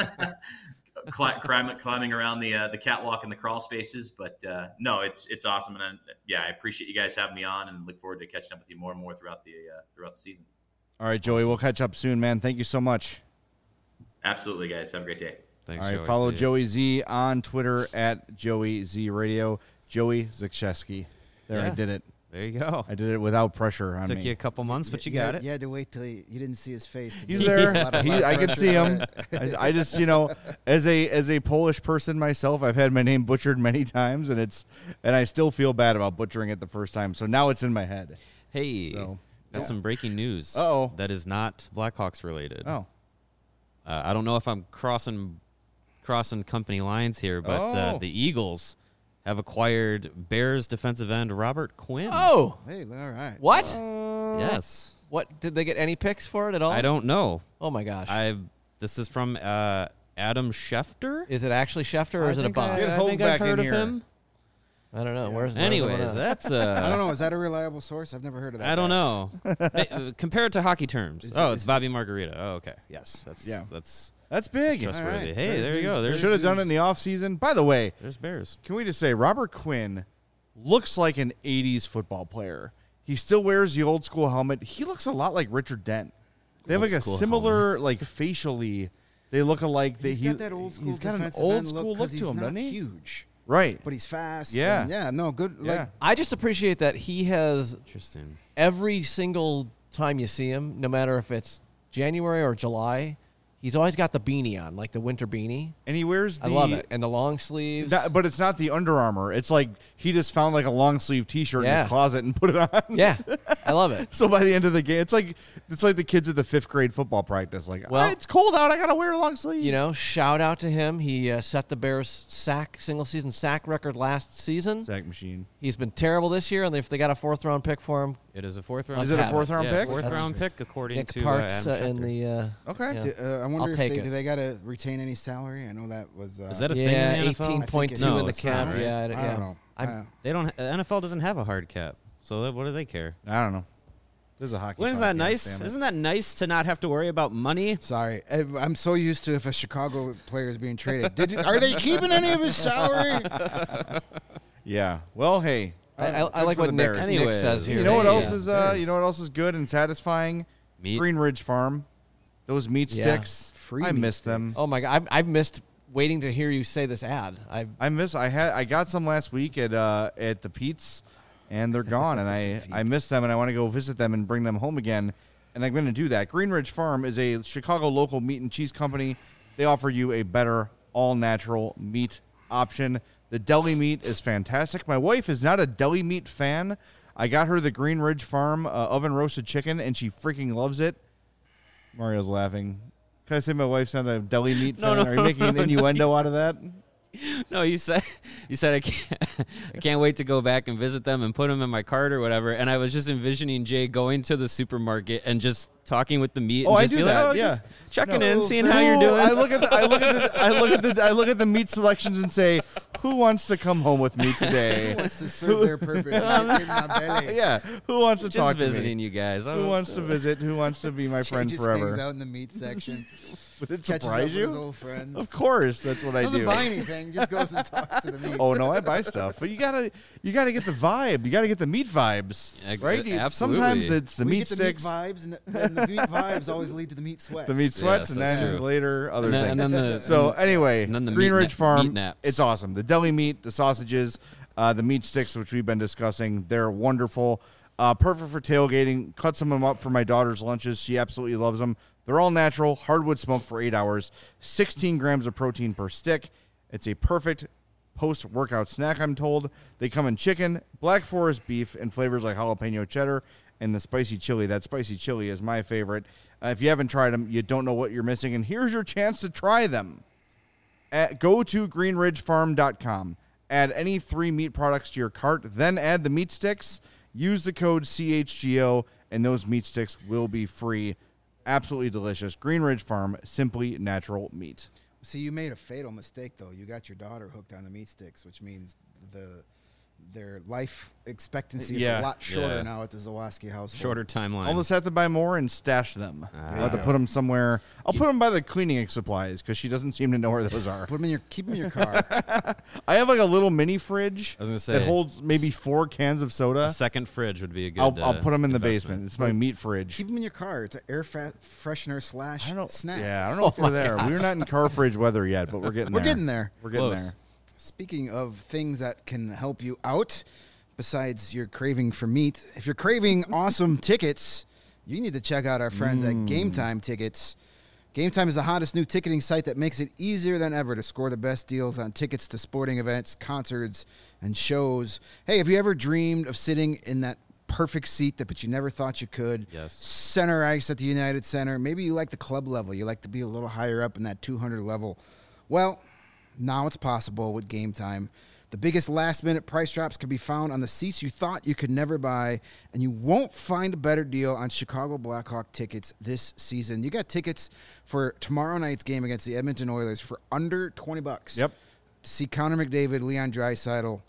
Climbing around the catwalk and the crawl spaces, but no, it's awesome, and I appreciate you guys having me on, and look forward to catching up with you more and more throughout the season. All right, Joey, we'll catch up soon, man. Thank you so much. Absolutely, guys. Have a great day. Thanks. All right, Joey. follow Joey Z on Twitter at Joey Z Radio. Joey Zikshevsky. There, I did it. There you go. I did it without pressure on me. Took you a couple months, but you got it. You had to wait till you didn't see his face. He's there. I can see him. I just, as a Polish person myself, I've had my name butchered many times, and I still feel bad about butchering it the first time. So now it's in my head. Hey, that's some breaking news. Uh-oh. That is not Blackhawks related. Oh. I don't know if I'm crossing company lines here, but the Eagles have acquired Bears defensive end Robert Quinn. Oh, hey, all right. What? Yes. What did they get any picks for it at all? I don't know. Oh my gosh. This is from Adam Schefter. Is it actually Schefter or is it a bot? Get I Hogue think back I've heard in of here. him. I don't know. Where's Anyways, that's I don't know. Is that a reliable source? I've never heard of that. I don't know. Compare it to hockey terms. It's Bobby Margarita. Oh, okay. Yes, That's big. trustworthy. Right. Hey, there you go. Should have done it in the offseason. By the way, There's Bears. can we just say Robert Quinn looks like an 80s football player. He still wears the old school helmet. He looks a lot like Richard Dent. They have Old like a school similar, like facially, they look alike. He's got that old school He's got an defensive old end school look he's to him, not doesn't he? huge, Right. but he's fast. Yeah. and no, good. Yeah. Like, I just appreciate that he has Interesting. every single time you see him, no matter if it's January or July, he's always got the beanie on, like the winter beanie. And he wears the... I love it. And the long sleeves. But it's not the Under Armour. It's like he just found like a long sleeve T-shirt in Yeah. his closet and put it on. Yeah, I love it. So by the end of the game, it's like the kids at the 5th grade football practice. Like, Well, it's cold out. I gotta wear a long sleeve. Shout out to him. He set the Bears single season sack record last season. Sack machine. He's been terrible this year, and if they got a 4th round pick for him, It is a 4th round. Is it a pick. 4th round Yeah, pick? 4th round pick according Nick to Parks Adam in Schefter. the Okay. Yeah. I wonder I'll if take they it. do they got to retain any salary? I know that was. Is that a thing yeah, in the NFL? 18.2 No, in the it's not, cap. right? Yeah, I don't know. They don't. NFL doesn't have a hard cap, so what do they care? I don't know. This is a hockey. Isn't that podcast, nice? damn it. Isn't that nice to not have to worry about money? Sorry, I'm so used to if a Chicago player is being traded. Are they keeping any of his salary? Yeah. Well, hey. I good like for what the Nick, Bears. Nick Anyways. says here. You know what Yeah. else is? Bears. You know what else is good and satisfying? Meat. Green Ridge Farm. Those meat Yeah. sticks. Free I meat miss them. Oh my God, I've missed waiting to hear you say this ad. I got some last week at the Pete's, and they're gone. And I miss them, and I want to go visit them and bring them home again. And I'm going to do that. Green Ridge Farm is a Chicago local meat and cheese company. They offer you a better all-natural meat option. The deli meat is fantastic. My wife is not a deli meat fan. I got her the Green Ridge Farm oven-roasted chicken, and she freaking loves it. Mario's laughing. Can I say my wife's not a deli meat fan? No, Are you making an innuendo out of that? No, you said I can't wait to go back and visit them and put them in my cart or whatever. And I was just envisioning Jay going to the supermarket and just talking with the meat. Oh, and I just do be that, like, yeah. just checking No, in, seeing how you're Ooh, doing. I look at the meat selections and say, who wants to come home with me today? Who wants to serve their purpose? In my belly? Yeah, who wants to just talk visiting to me? you guys. Who wants to visit? Who wants to be my Jay friend just hangs forever? out in the meat section. Would it Catches up surprise with his you? old friends. Of course, that's what I Doesn't do. buy anything. Just goes and talks to the meat. Oh no, I buy stuff, but you gotta get the vibe. You gotta get the meat vibes, Yeah, right? absolutely. Sometimes it's the We meat get sticks, the meat vibes, and then the meat vibes always lead to the meat sweats. the meat sweats, Yes, and that's then true. later other And then- things. and then the- So anyway, and then the Green meat Ridge na- Farm, meat naps. it's awesome. The deli meat, the sausages, the meat sticks, which we've been discussing, they're wonderful. Perfect for tailgating. Cut some of them up for my daughter's lunches. She absolutely loves them. They're all natural, hardwood smoked for 8 hours, 16 grams of protein per stick. It's a perfect post-workout snack, I'm told. They come in chicken, Black Forest beef, and flavors like jalapeno cheddar and the spicy chili. That spicy chili is my favorite. If you haven't tried them, you don't know what you're missing, and here's your chance to try them. Go to greenridgefarm.com. Add any 3 meat products to your cart, then add the meat sticks. Use the code CHGO, and those meat sticks will be free. Absolutely delicious. Green Ridge Farm, simply natural meat. See, you made a fatal mistake, though. You got your daughter hooked on the meat sticks, which means their life expectancy is Yeah. a lot shorter Yeah. now at the Zawoski household. Shorter timeline. I'll just have to buy more and stash them. I'll have to Yeah. put them somewhere. I'll put them by the cleaning supplies because she doesn't seem to know where those are. Put them in keep them in your car. I have like a little mini fridge I was gonna that say, holds maybe 4 cans of soda. a second fridge would be a good. I'll put them in the investment. basement. It's my meat fridge. Keep them in your car. It's an air freshener slash I don't, snack. Yeah, I don't know if we're there. We're not in car fridge weather yet, but we're getting We're there. getting there. We're getting Close. there. Speaking of things that can help you out, besides your craving for meat, if you're craving awesome tickets, you need to check out our friends at Game Time Tickets. Game Time is the hottest new ticketing site that makes it easier than ever to score the best deals on tickets to sporting events, concerts, and shows. Hey, have you ever dreamed of sitting in that perfect seat but you never thought you could? Yes. Center ice at the United Center. Maybe you like the club level. You like to be a little higher up in that 200 level. Well, now it's possible with Game Time. The biggest last-minute price drops can be found on the seats you thought you could never buy, and you won't find a better deal on Chicago Blackhawk tickets this season. You got tickets for tomorrow night's game against the Edmonton Oilers for under $20. Yep. To see Connor McDavid, Leon Draisaitl,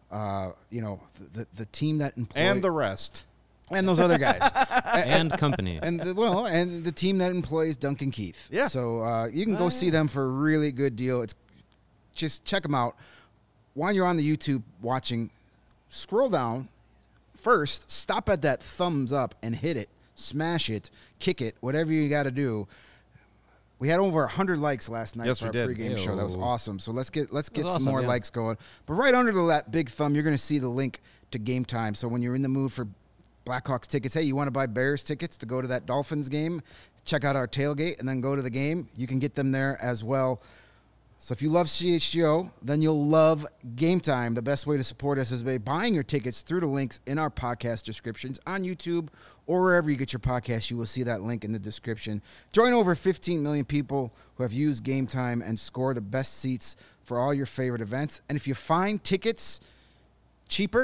the team that employed And the rest. and those other guys. and company. And the team that employs Duncan Keith. Yeah. So you can go see them for a really good deal. It's just check them out. While you're on the YouTube watching, scroll down. First, stop at that thumbs up and hit it, smash it, kick it, whatever you got to do. We had over 100 likes last night Yes, for we our did. pregame show. That was Ew. awesome. So let's get some awesome, more yeah. likes going. But right under that big thumb, you're going to see the link to Game Time. So when you're in the mood for Blackhawks tickets, hey, you want to buy Bears tickets to go to that Dolphins game, check out our tailgate and then go to the game. You can get them there as well. So if you love CHGO, then you'll love Game Time. The best way to support us is by buying your tickets through the links in our podcast descriptions on YouTube or wherever you get your podcast. You will see that link in the description. Join over 15 million people who have used Game Time and score the best seats for all your favorite events. And if you find tickets cheaper,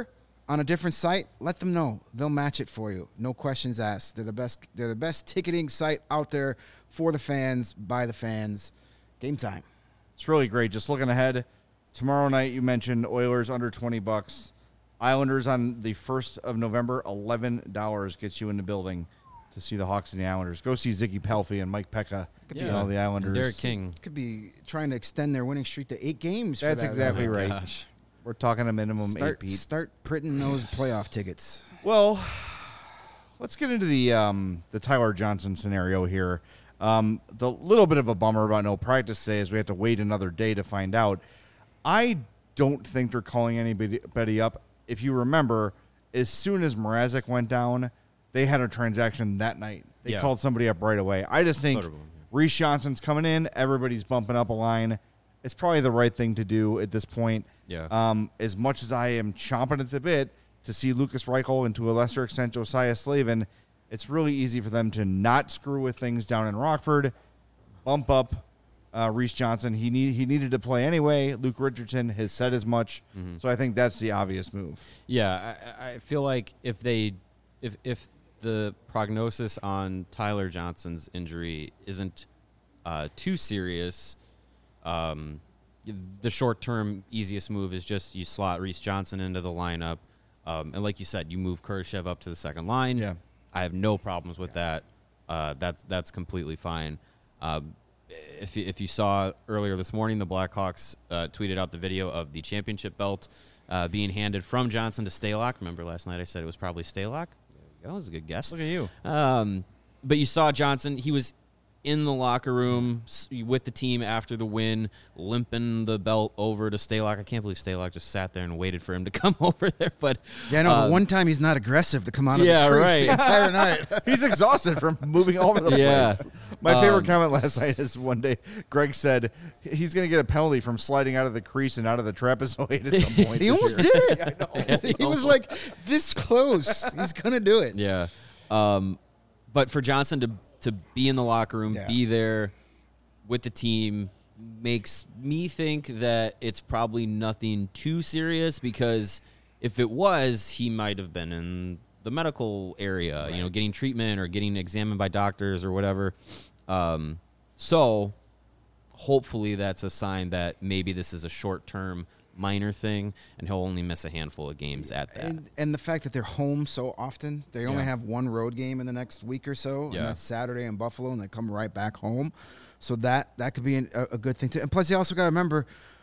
on a different site, let them know. They'll match it for you. No questions asked. They're the best. They're the best ticketing site out there for the fans, by the fans. Game time. It's really great. Just looking ahead, tomorrow night you mentioned Oilers under $20. Islanders on the 1st of November, $11 gets you in the building to see the Hawks and the Islanders. Go see Ziggy Palffy and Mike Pekka. Yeah. The Islanders. Derek King. Could be trying to extend their winning streak to 8 games. That's for that exactly level. right. Gosh. We're talking a minimum 8, Pete. Start printing those playoff tickets. Well, let's get into the Tyler Johnson scenario here. The little bit of a bummer about no practice today is we have to wait another day to find out. I don't think they're calling anybody up. If you remember, as soon as Mrazek went down, they had a transaction that night. They called somebody up right away. I just think Reese Johnson's coming in. Everybody's bumping up a line. It's probably the right thing to do at this point. Yeah. As much as I am chomping at the bit to see Lucas Reichel and to a lesser extent Josiah Slavin, it's really easy for them to not screw with things down in Rockford, bump up Reese Johnson. He needed to play anyway. Luke Richardson has said as much. So I think that's the obvious move. Yeah, I feel like if the prognosis on Tyler Johnson's injury isn't too serious, the short-term easiest move is just you slot Reese Johnson into the lineup, and like you said, you move Kurashev up to the second line. Yeah. I have no problems with that. That's completely fine. If you saw earlier this morning, the Blackhawks tweeted out the video of the championship belt being handed from Johnson to Stalock. Remember last night I said it was probably Stalock? That was a good guess. Look at you. But you saw Johnson. He was in the locker room with the team after the win, limping the belt over to Stalock. I can't believe Stalock just sat there and waited for him to come over there. But Yeah, no, the one time he's not aggressive to come out of his yeah, crease right. the entire night. He's exhausted from moving all over the Yeah. place. My favorite comment last night is one day Greg said he's going to get a penalty from sliding out of the crease and out of the trapezoid at some point. He this almost year. did it. He was like this close. He's gonna do it. yeah. But for Johnson to be in the locker room, Yeah. be there with the team, makes me think that it's probably nothing too serious, because if it was, he might have been in the medical area, getting treatment or getting examined by doctors or whatever. So hopefully that's a sign that maybe this is a short-term minor thing, and he'll only miss a handful of games at that. And the fact that they're home so often, they only have one road game in the next week or so, Yeah. and that's Saturday in Buffalo, and they come right back home. So that could be a good thing too. And plus, you also got to remember,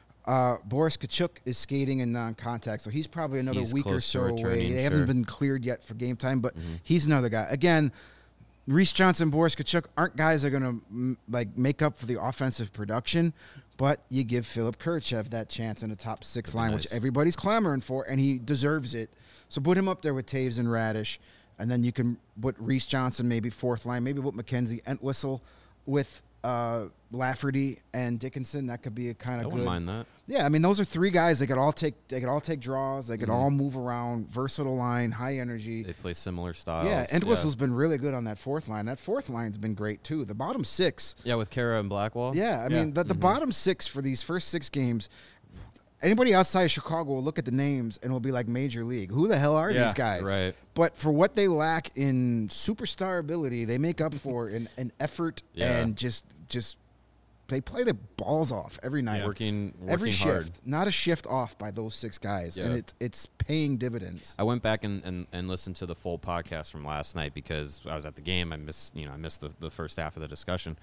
Boris Kachuk is skating in non-contact, so he's probably another He's week or close to so away. returning, They sure. haven't been cleared yet for game time, but he's another guy. Again, Reese Johnson, Boris Kachuk aren't guys that are going to make up for the offensive production, but you give Philip Kurashev that chance in the top 6 line, which nice. everybody's clamoring for, and he deserves it. So put him up there with Taves and Radish, and then you can put Reese Johnson maybe 4th line, maybe put McKenzie Entwistle with Lafferty and Dickinson. That could be a kind I of wouldn't good. mind that. Yeah, I mean those are 3 guys. They could all take draws. They could all move around. Versatile line, high energy. They play similar styles. Yeah, Entwistle's been really good on that 4th line. That 4th line's been great too. The bottom 6. Yeah, with Kara and Blackwell. Yeah, I mean the bottom 6 for these first 6 games. Anybody outside of Chicago will look at the names and will be like Major League. Who the hell are these guys? Right. But for what they lack in superstar ability, they make up for in effort and just they play their balls off every night. Working every hard. shift. Not a shift off by those 6 guys. Yeah. And it's paying dividends. I went back and listened to the full podcast from last night because I was at the game. I missed the first half of the discussion.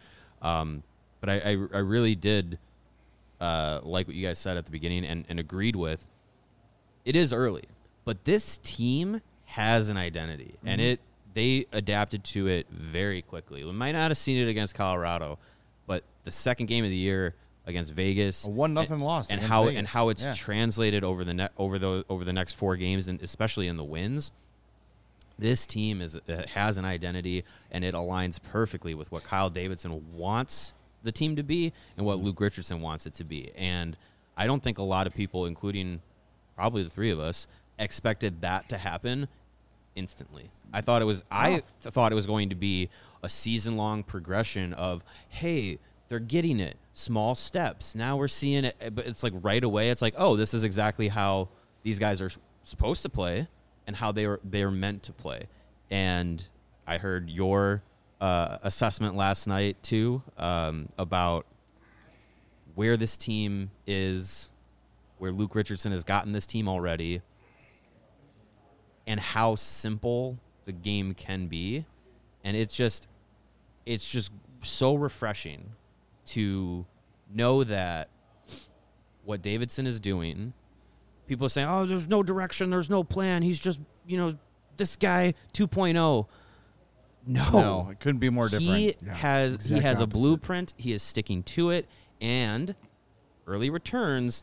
But I really did like what you guys said at the beginning and agreed with. It is early, but this team has an identity, and they adapted to it very quickly. We might not have seen it against Colorado, but the second game of the year against Vegas, A 1-0 loss and against how Vegas. and how it's Yeah. translated over the next 4 games, and especially in the wins. This team has an identity, and it aligns perfectly with what Kyle Davidson wants the team to be and what Luke Richardson wants it to be. And I don't think a lot of people, including probably the 3 of us, expected that to happen instantly. I thought it was going to be a season-long progression of, hey, they're getting it, small steps. Now we're seeing it, but it's like right away. It's like, oh, this is exactly how these guys are supposed to play and how they're meant to play. And I heard your assessment last night too, about where this team is, where Luke Richardson has gotten this team already, and how simple the game can be. And it's just so refreshing to know that what Davidson is doing, people are saying, oh, there's no direction, there's no plan, he's just, this guy 2.0. No, it couldn't be more different. He has opposite. a blueprint. He is sticking to it, and early returns,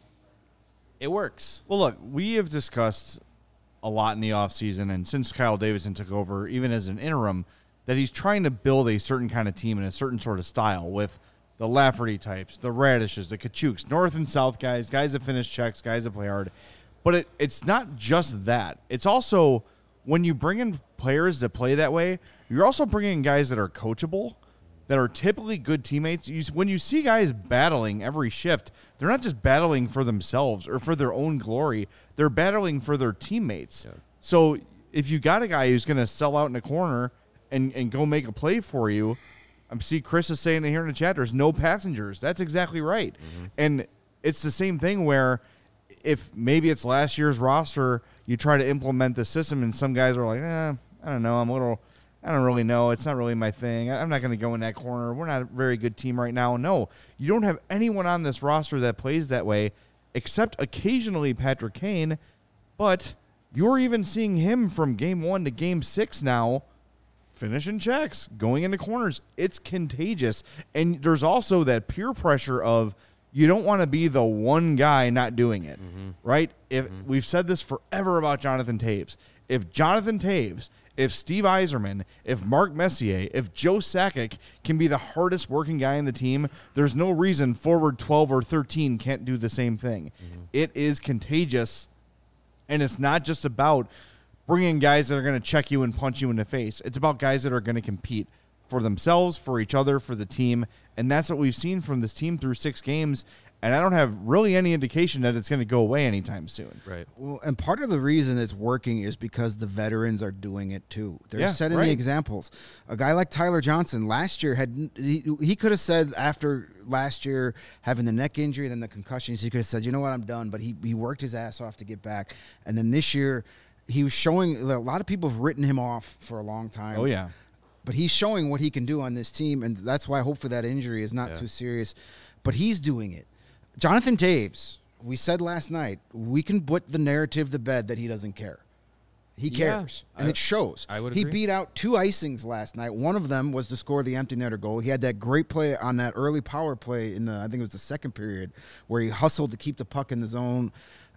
it works. Well, look, we have discussed a lot in the offseason, and since Kyle Davidson took over, even as an interim, that he's trying to build a certain kind of team and a certain sort of style with the Lafferty types, the Radishes, the Kachuks, north and south guys that finish checks, guys that play hard. But it's not just that. It's also when you bring in players that play that way, you're also bringing in guys that are coachable, that are typically good teammates. When you see guys battling every shift, they're not just battling for themselves or for their own glory. They're battling for their teammates. Yeah. So if you got a guy who's going to sell out in a corner and go make a play for you, I see Chris is saying it here in the chat, there's no passengers. That's exactly right. Mm-hmm. And it's the same thing where if maybe it's last year's roster, you try to implement the system and some guys are like, I don't know, I don't really know. It's not really my thing. I'm not going to go in that corner. We're not a very good team right now. No, you don't have anyone on this roster that plays that way except occasionally Patrick Kane, but you're even seeing him from game 1 to game 6 now finishing checks, going into corners. It's contagious. And there's also that peer pressure of you don't want to be the one guy not doing it, right? We've said this forever about Jonathan Toews. If Jonathan Toews, if Steve Yzerman, if Mark Messier, if Joe Sakic can be the hardest working guy in the team, there's no reason forward 12 or 13 can't do the same thing. It is contagious, and it's not just about bringing guys that are going to check you and punch you in the face. It's about guys that are going to compete for themselves, for each other, for the team, and that's what we've seen from this team through 6 games, and I don't have really any indication that it's going to go away anytime soon. Right. Well, and part of the reason it's working is because the veterans are doing it too. They're setting the examples. A guy like Tyler Johnson last year he could have said after last year having the neck injury, then the concussions, he could have said, you know what, I'm done. But he worked his ass off to get back. And then this year he was showing, a lot of people have written him off for a long time. Oh, yeah. But he's showing what he can do on this team, and that's why hopefully that injury is not too serious. But he's doing it. Jonathan Toews, we said last night, we can put the narrative to bed that he doesn't care. He cares, and it shows. I would agree. He agree. beat out 2 icings last night. One of them was to score the empty netter goal. He had that great play on that early power play in I think it was the second period, where he hustled to keep the puck in the zone.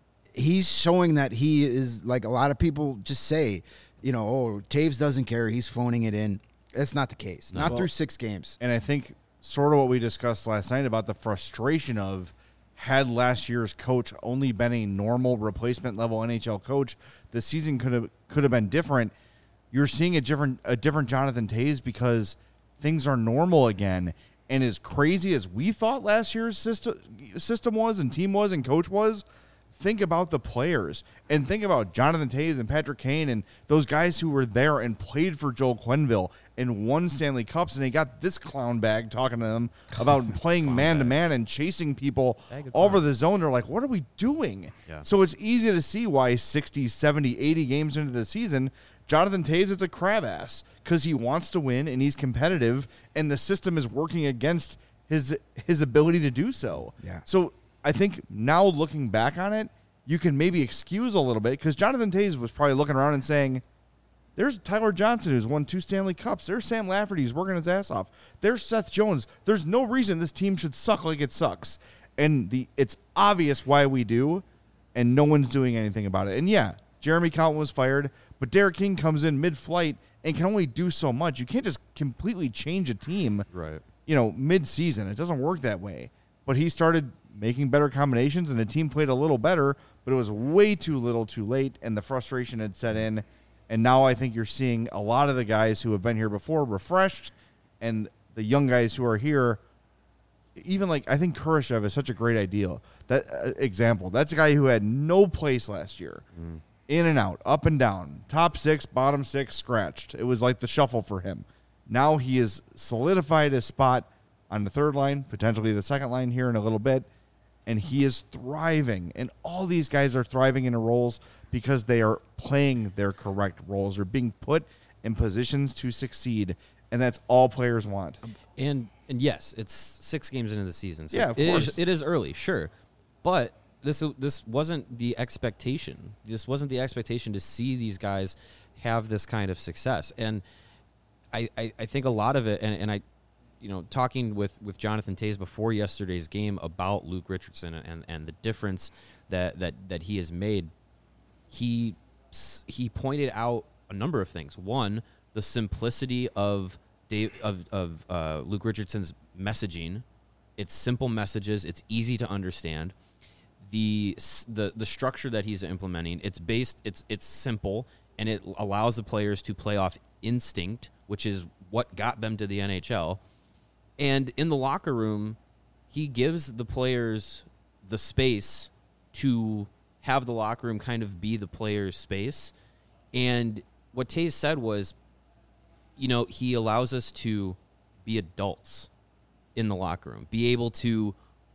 He's showing that he is, like a lot of people just say, Toews doesn't care. He's phoning it in. That's not the case. Not through 6 games. And I think sort of what we discussed last night about the frustration of had last year's coach only been a normal replacement level NHL coach, the season could have been different. You're seeing a different Jonathan Toews because things are normal again. And as crazy as we thought last year's system was and team was and coach was, think about the players and think about Jonathan Toews and Patrick Kane and those guys who were there and played for Joel Quenneville and won Stanley Cups, and they got this clown bag talking to them about playing man-to-man and chasing people all over the zone. They're like, what are we doing? Yeah. So it's easy to see why 60, 70, 80 games into the season, Jonathan Toews is a crab ass because he wants to win and he's competitive, and the system is working against his ability to do so. Yeah. So I think now looking back on it, you can maybe excuse a little bit because Jonathan Toews was probably looking around and saying, there's Tyler Johnson who's won 2 Stanley Cups. There's Sam Lafferty who's working his ass off. There's Seth Jones. There's no reason this team should suck like it sucks. And it's obvious why we do, and no one's doing anything about it. And yeah, Jeremy Colliton was fired, but Derek King comes in mid-flight and can only do so much. You can't just completely change a team, mid-season. It doesn't work that way. But he started making better combinations, and the team played a little better, but it was way too little too late, and the frustration had set in. And now I think you're seeing a lot of the guys who have been here before refreshed, and the young guys who are here, even I think Kurashev is such a great example. That's a guy who had no place last year in and out, up and down, top 6, bottom 6, scratched. It was like the shuffle for him. Now he has solidified his spot on the third line, potentially the second line here in a little bit, and he is thriving. And all these guys are thriving in their roles because they are playing their correct roles or being put in positions to succeed, and that's all players want. And yes, it's 6 games into the season. So Yeah, of course. It is early, sure. But this wasn't the expectation. This wasn't the expectation to see these guys have this kind of success. And I think a lot of it, and I, talking with Jonathan Toews before yesterday's game about Luke Richardson and the difference that he has made, he pointed out a number of things. One, the simplicity of Luke Richardson's messaging. It's simple messages. It's easy to understand. The structure that he's implementing, it's simple, and it allows the players to play off instinct, which is what got them to the NHL. And in the locker room, he gives the players the space to have the locker room kind of be the players' space. And what Toews said was, he allows us to be adults in the locker room, be able to,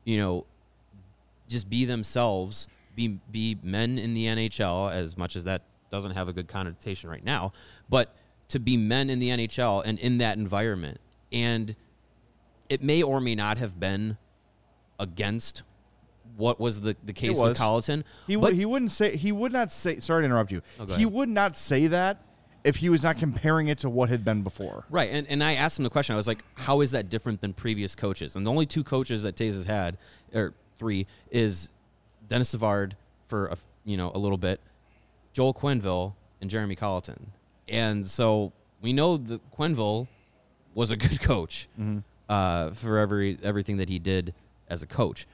just be themselves, be men in the NHL, as much as that doesn't have a good connotation right now, but to be men in the NHL and in that environment. And it may or may not have been against what was the case with Colliton. He would not say, sorry to interrupt you. He would not say that if he was not comparing it to what had been before. Right. And I asked him the question. I was like, how is that different than previous coaches? And the only 2 coaches that Toews has had, or 3, is Dennis Savard for a little bit, Joel Quenneville, and Jeremy Colliton. And so we know that Quenneville was a good coach for everything that he did as a coach.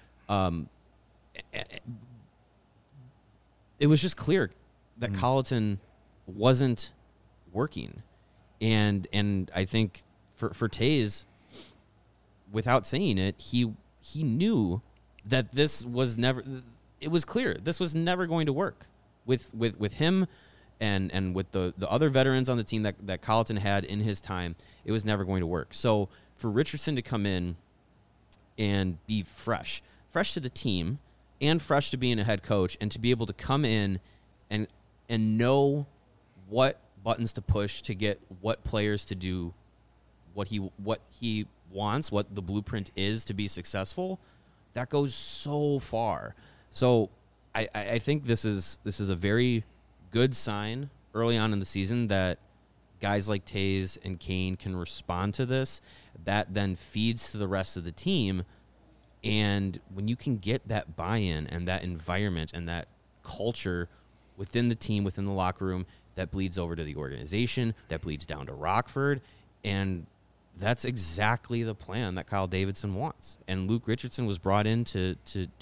It was just clear that Colliton wasn't working. And I think for Toews, without saying it, he knew that this was never, it was clear this was never going to work with him and with the other veterans on the team that Colliton had in his time. It was never going to work. So for Richardson to come in and be fresh to the team and fresh to being a head coach, and to be able to come in and know what buttons to push to get what players to do what he wants, what the blueprint is to be successful, that goes so far. So I think this is a very good sign early on in the season that guys like Toews and Kane can respond to this. That then feeds to the rest of the team. And when you can get that buy-in and that environment and that culture within the team, within the locker room, that bleeds over to the organization, that bleeds down to Rockford, and that's exactly the plan that Kyle Davidson wants. And Luke Richardson was brought in to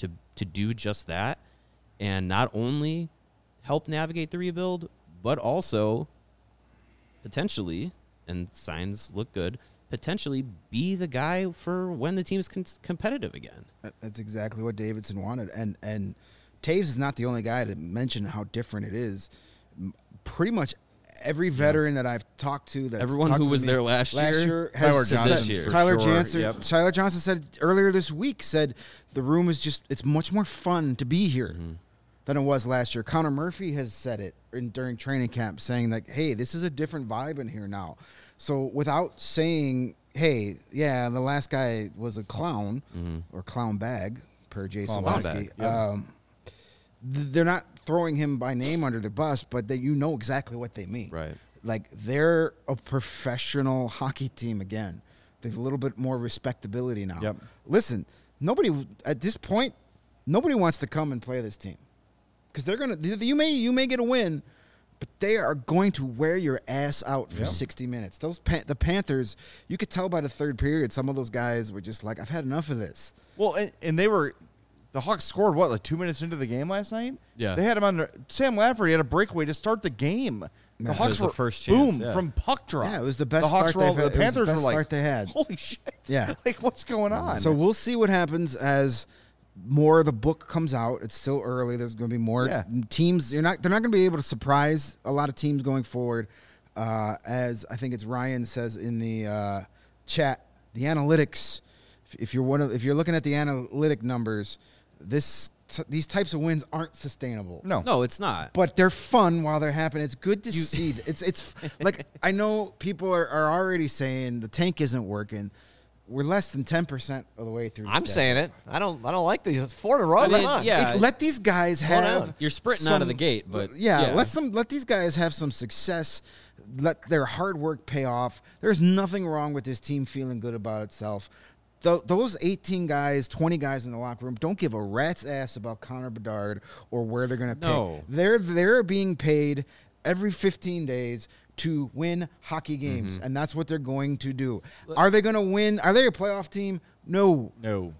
do just that, and not only help navigate the rebuild, but also potentially, and signs look good, potentially be the guy for when the team's competitive again. That's exactly what Davidson wanted. And Toews is not the only guy to mention how different it is. Pretty much every veteran that I've talked to, everyone who was there last year has Tyler Johnson. Tyler Johnson said earlier this week, said the room is it's much more fun to be here than it was last year. Connor Murphy has said it during training camp, saying that, hey, this is a different vibe in here now. So without saying, hey, yeah, the last guy was a clown or clown bag, per Jay Sawatsky, they're not throwing him by name under the bus, but that you know exactly what they mean. Right. Like, they're a professional hockey team again. They have a little bit more respectability now. Yep. Listen, at this point, nobody wants to come and play this team. Because they're going to – you may get a win, but they are going to wear your ass out for 60 minutes. The Panthers, you could tell by the third period, some of those guys were just like, I've had enough of this. Well, and they were – the Hawks scored, like 2 minutes into the game last night? Yeah. They had him under – Sam Lafferty had a breakaway to start the game. The Hawks were first chance, from puck drop. Yeah, it was the best Hawks start they've had. The Panthers were like, start they had. Holy shit. Yeah. Like, what's going on? So we'll see what happens as more of the book comes out. It's still early. There's going to be more teams. They're not going to be able to surprise a lot of teams going forward. As I think it's Ryan says in the chat, the analytics. If you're looking at the analytic numbers, these types of wins aren't sustainable. No, it's not. But they're fun while they're happening. It's good to see. It's like, I know people are already saying the tank isn't working. We're less than 10% of the way through. I'm saying it. I don't like these. It's 4 in a row. I mean, Come on. yeah. Let these guys have. You're sprinting out of the gate, but let these guys have some success. Let their hard work pay off. There's nothing wrong with this team feeling good about itself. Those 18 guys, 20 guys in the locker room don't give a rat's ass about Connor Bedard or where they're going to pick. They're being paid every 15 days to win hockey games, and that's what they're going to do. Are they going to win? Are they a playoff team? No.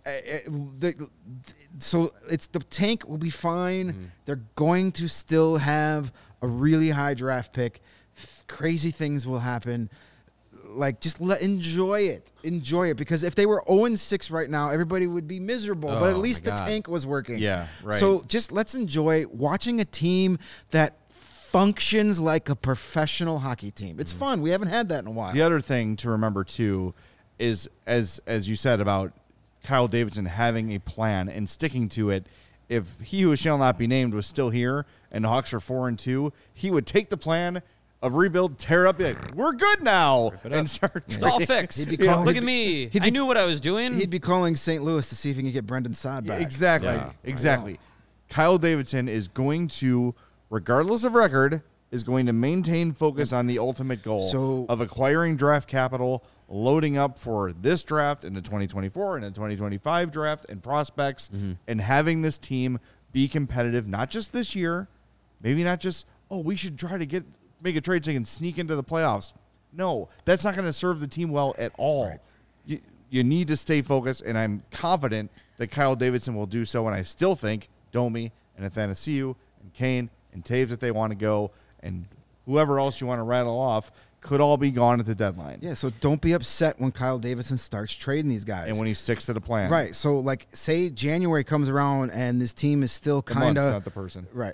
So the tank will be fine. They're going to still have a really high draft pick. Crazy things will happen. Like, just enjoy it. Enjoy it, because if they were 0-6 right now, everybody would be miserable. But at least the tank was working. Yeah, right. So just let's enjoy watching a team that functions like a professional hockey team. It's fun. We haven't had that in a while. The other thing to remember too is, as you said about Kyle Davidson having a plan and sticking to it. If he who shall not be named was still here and the Hawks are 4-2, he would take the plan of rebuild, tear up, be like, we're good now, and start. It's all fixed. Look at me. I knew what I was doing. He'd be calling St. Louis to see if he can get Brendan Saad back. Exactly. Kyle Davidson is going to, regardless of record, is going to maintain focus on the ultimate goal of acquiring draft capital, loading up for this draft and the 2024 and the 2025 draft and prospects, and having this team be competitive, not just this year, maybe not just, we should try to make a trade so they can sneak into the playoffs. No, that's not going to serve the team well at all. Right. You need to stay focused, and I'm confident that Kyle Davidson will do so, and I still think Domi and Athanasiou and Kane and Taves, if they want to go, and whoever else you want to rattle off, could all be gone at the deadline. Yeah, so don't be upset when Kyle Davidson starts trading these guys. And when he sticks to the plan. Right, so, like, say January comes around and this team is still kind of... not the person. Right.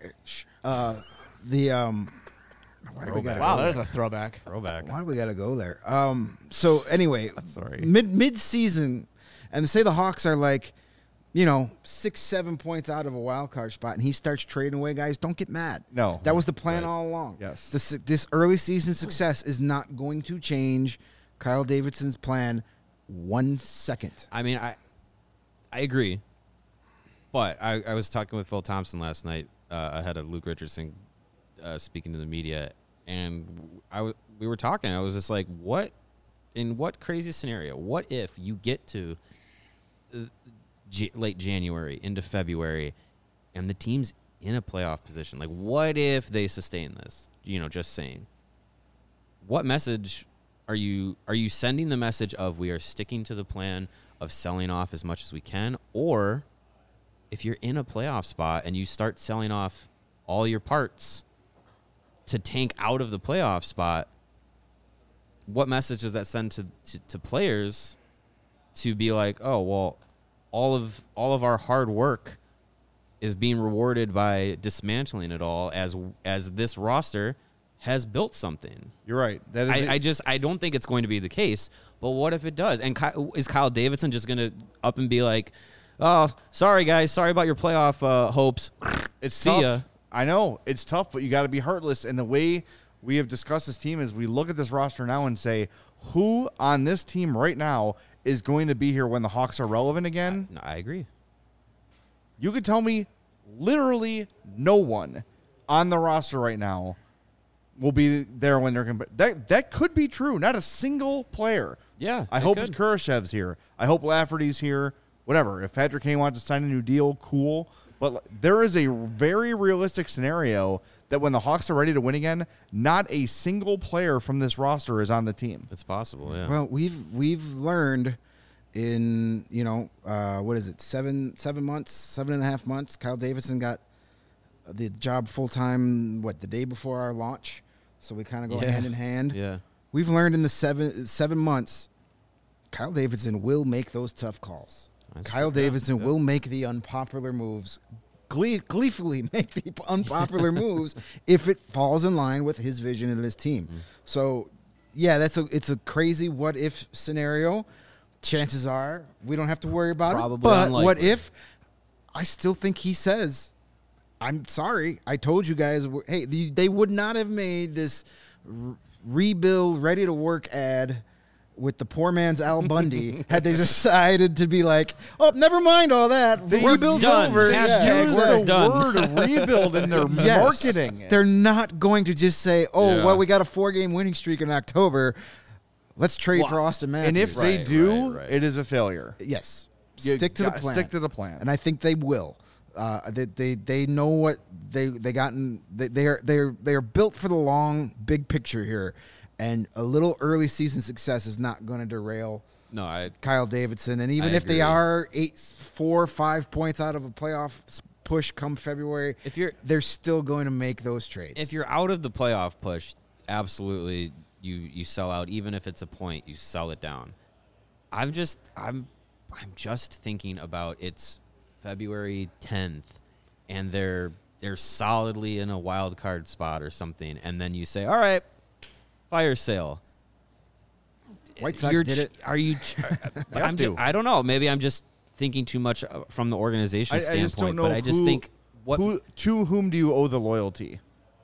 Wow, there's a throwback. Why do we got to go there? So anyway, sorry. Mid-season, and say the Hawks are like, 6-7 points out of a wild card spot, and he starts trading away guys. Don't get mad. No, that was the plan all along. Yes, this early season success is not going to change Kyle Davidson's plan 1 second. I mean, I agree, but I was talking with Phil Thompson last night ahead of Luke Richardson. Speaking to the media, and we were talking. I was just like, what crazy scenario? What if you get to late January into February, and the team's in a playoff position? Like, what if they sustain this? Just saying. What message are you sending? The message of we are sticking to the plan of selling off as much as we can, or if you're in a playoff spot and you start selling off all your parts to tank out of the playoff spot, what message does that send to players to be like, oh, well, all of our hard work is being rewarded by dismantling it all as this roster has built something? You're right. That is I don't think it's going to be the case, but what if it does? And is Kyle Davidson just going to up and be like, oh, sorry, guys, sorry about your playoff hopes. It's See tough. ya. I know it's tough, but you got to be heartless. And the way we have discussed this team is we look at this roster now and say, who on this team right now is going to be here when the Hawks are relevant again? I agree. You could tell me literally no one on the roster right now will be there when they're that could be true. Not a single player. Yeah, I hope Kurashev's here. I hope Lafferty's here. Whatever. If Patrick Kane wants to sign a new deal, cool. But there is a very realistic scenario that when the Hawks are ready to win again, not a single player from this roster is on the team. It's possible, yeah. Well, we've learned in, 7.5 months, Kyle Davidson got the job full-time, the day before our launch. So we kind of go hand in hand. Yeah. We've learned in the 7 months, Kyle Davidson will make those tough calls. Kyle Davidson will make the unpopular moves, gleefully make the unpopular moves if it falls in line with his vision of this team. So, yeah, it's a crazy what if scenario. Chances are we don't have to worry about Probably it. But unlikely. what if? I still think he says, "I'm sorry. I told you guys. Hey, they would not have made this rebuild, ready to work ad." With the poor man's Al Bundy, had they decided to be like, "Oh, never mind all that, the Work's rebuild's done. over." Hashtag Use work's the done. word rebuild in their Yes. marketing. They're not going to just say, "Oh, Yeah. well, we got a 4-game winning streak in October. Let's trade for Austin Matthews." And if they Right, do, right. it is a failure. yes, You stick to the got- plan. Stick to the plan. And I think they will. They know what they gotten. They are built for the long big picture here, and a little early season success is not going to derail No, I Kyle Davidson. And even I if they agree. are 4 or 5 points out of a playoff push come February, they're still going to make those trades. if you're out of the playoff push, absolutely you sell out. Even if it's a point, you sell it down. I'm just thinking about it's February 10th, and they're solidly in a wild card spot or something, and then you say, all right, fire sale. White Sox did it. Are you? have to. I don't know. Maybe I'm just thinking too much from the organization I standpoint. just don't know but I just think what to whom do you owe the loyalty?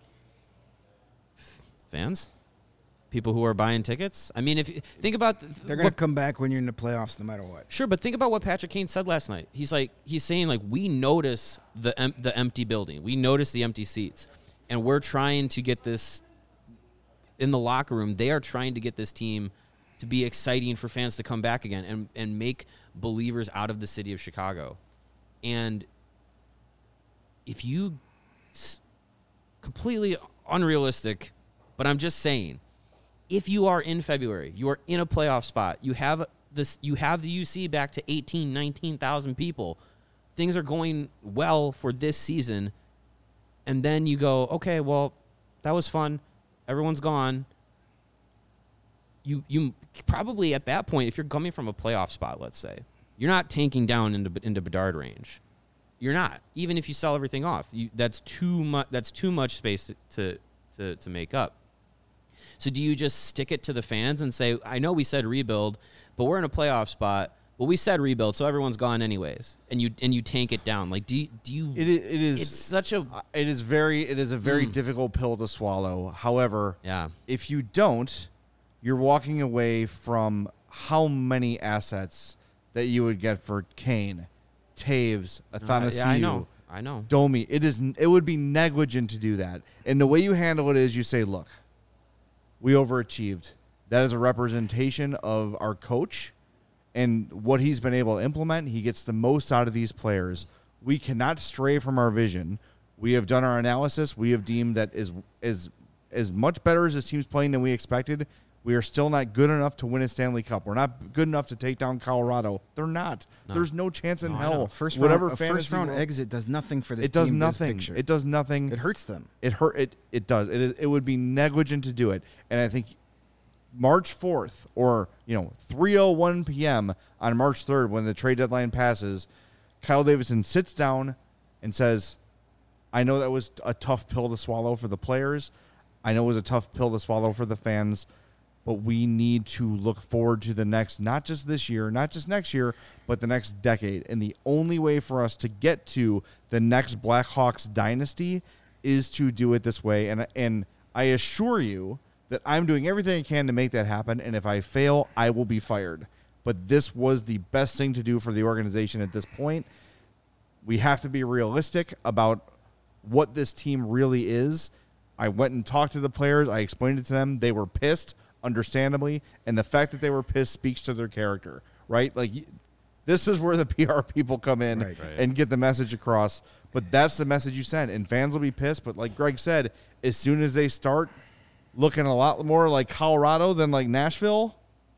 fans, people who are buying tickets. I mean, if you think about They're going to come back when you're in the playoffs no matter what. Sure, but think about what Patrick Kane said last night. He's saying we notice the empty building, we notice the empty seats, and we're trying to get this in the locker room. They are trying to get this team to be exciting for fans to come back again and make believers out of the city of Chicago. And if you completely unrealistic, but I'm just saying, if you are in February, you are in a playoff spot, you have the UC back to 18, 19,000 people. Things are going well for this season. And then you go, okay, well, that was fun. Everyone's gone. You probably at that point, if you're coming from a playoff spot, let's say, you're not tanking down into Bedard range. You're not. Even if you sell everything off, that's too much. That's too much space to make up. So do you just stick it to the fans and say, I know we said rebuild, but we're in a playoff spot. Well, we said rebuild, so everyone's gone anyways, and you tank it down. Like, do you? It is. It's such a. It is a very difficult pill to swallow. However, Yeah. if you don't, you're walking away from how many assets that you would get for Kane, Taves, Athanasiou, Yeah, I know. Domi. It would be negligent to do that. And the way you handle it is you say, look, we overachieved. That is a representation of our coach and what he's been able to implement. He gets the most out of these players. We cannot stray from our vision. We have done our analysis. We have deemed that as much better as this team's playing than we expected. We are still not good enough to win a Stanley Cup. We're not good enough to take down Colorado. They're not. No. There's no chance in No, I hell. know. A first fantasy round world- exit does nothing for this It does team. nothing. This picture. It does nothing. It hurts them. It does. It would be negligent to do it. And I think March 4th or 3:01 p.m. on March 3rd when the trade deadline passes, Kyle Davidson sits down and says, I know that was a tough pill to swallow for the players. I know it was a tough pill to swallow for the fans, but we need to look forward to the next, not just this year, not just next year, but the next decade. And the only way for us to get to the next Blackhawks dynasty is to do it this way. And I assure you that I'm doing everything I can to make that happen. And if I fail, I will be fired. But this was the best thing to do for the organization at this point. We have to be realistic about what this team really is. I went and talked to the players. I explained it to them. They were pissed, understandably, and the fact that they were pissed speaks to their character, right? Like, this is where the PR people come in Right. and get the message across. But that's the message you send, and fans will be pissed. But like Greg said, as soon as they start looking a lot more like Colorado than like Nashville,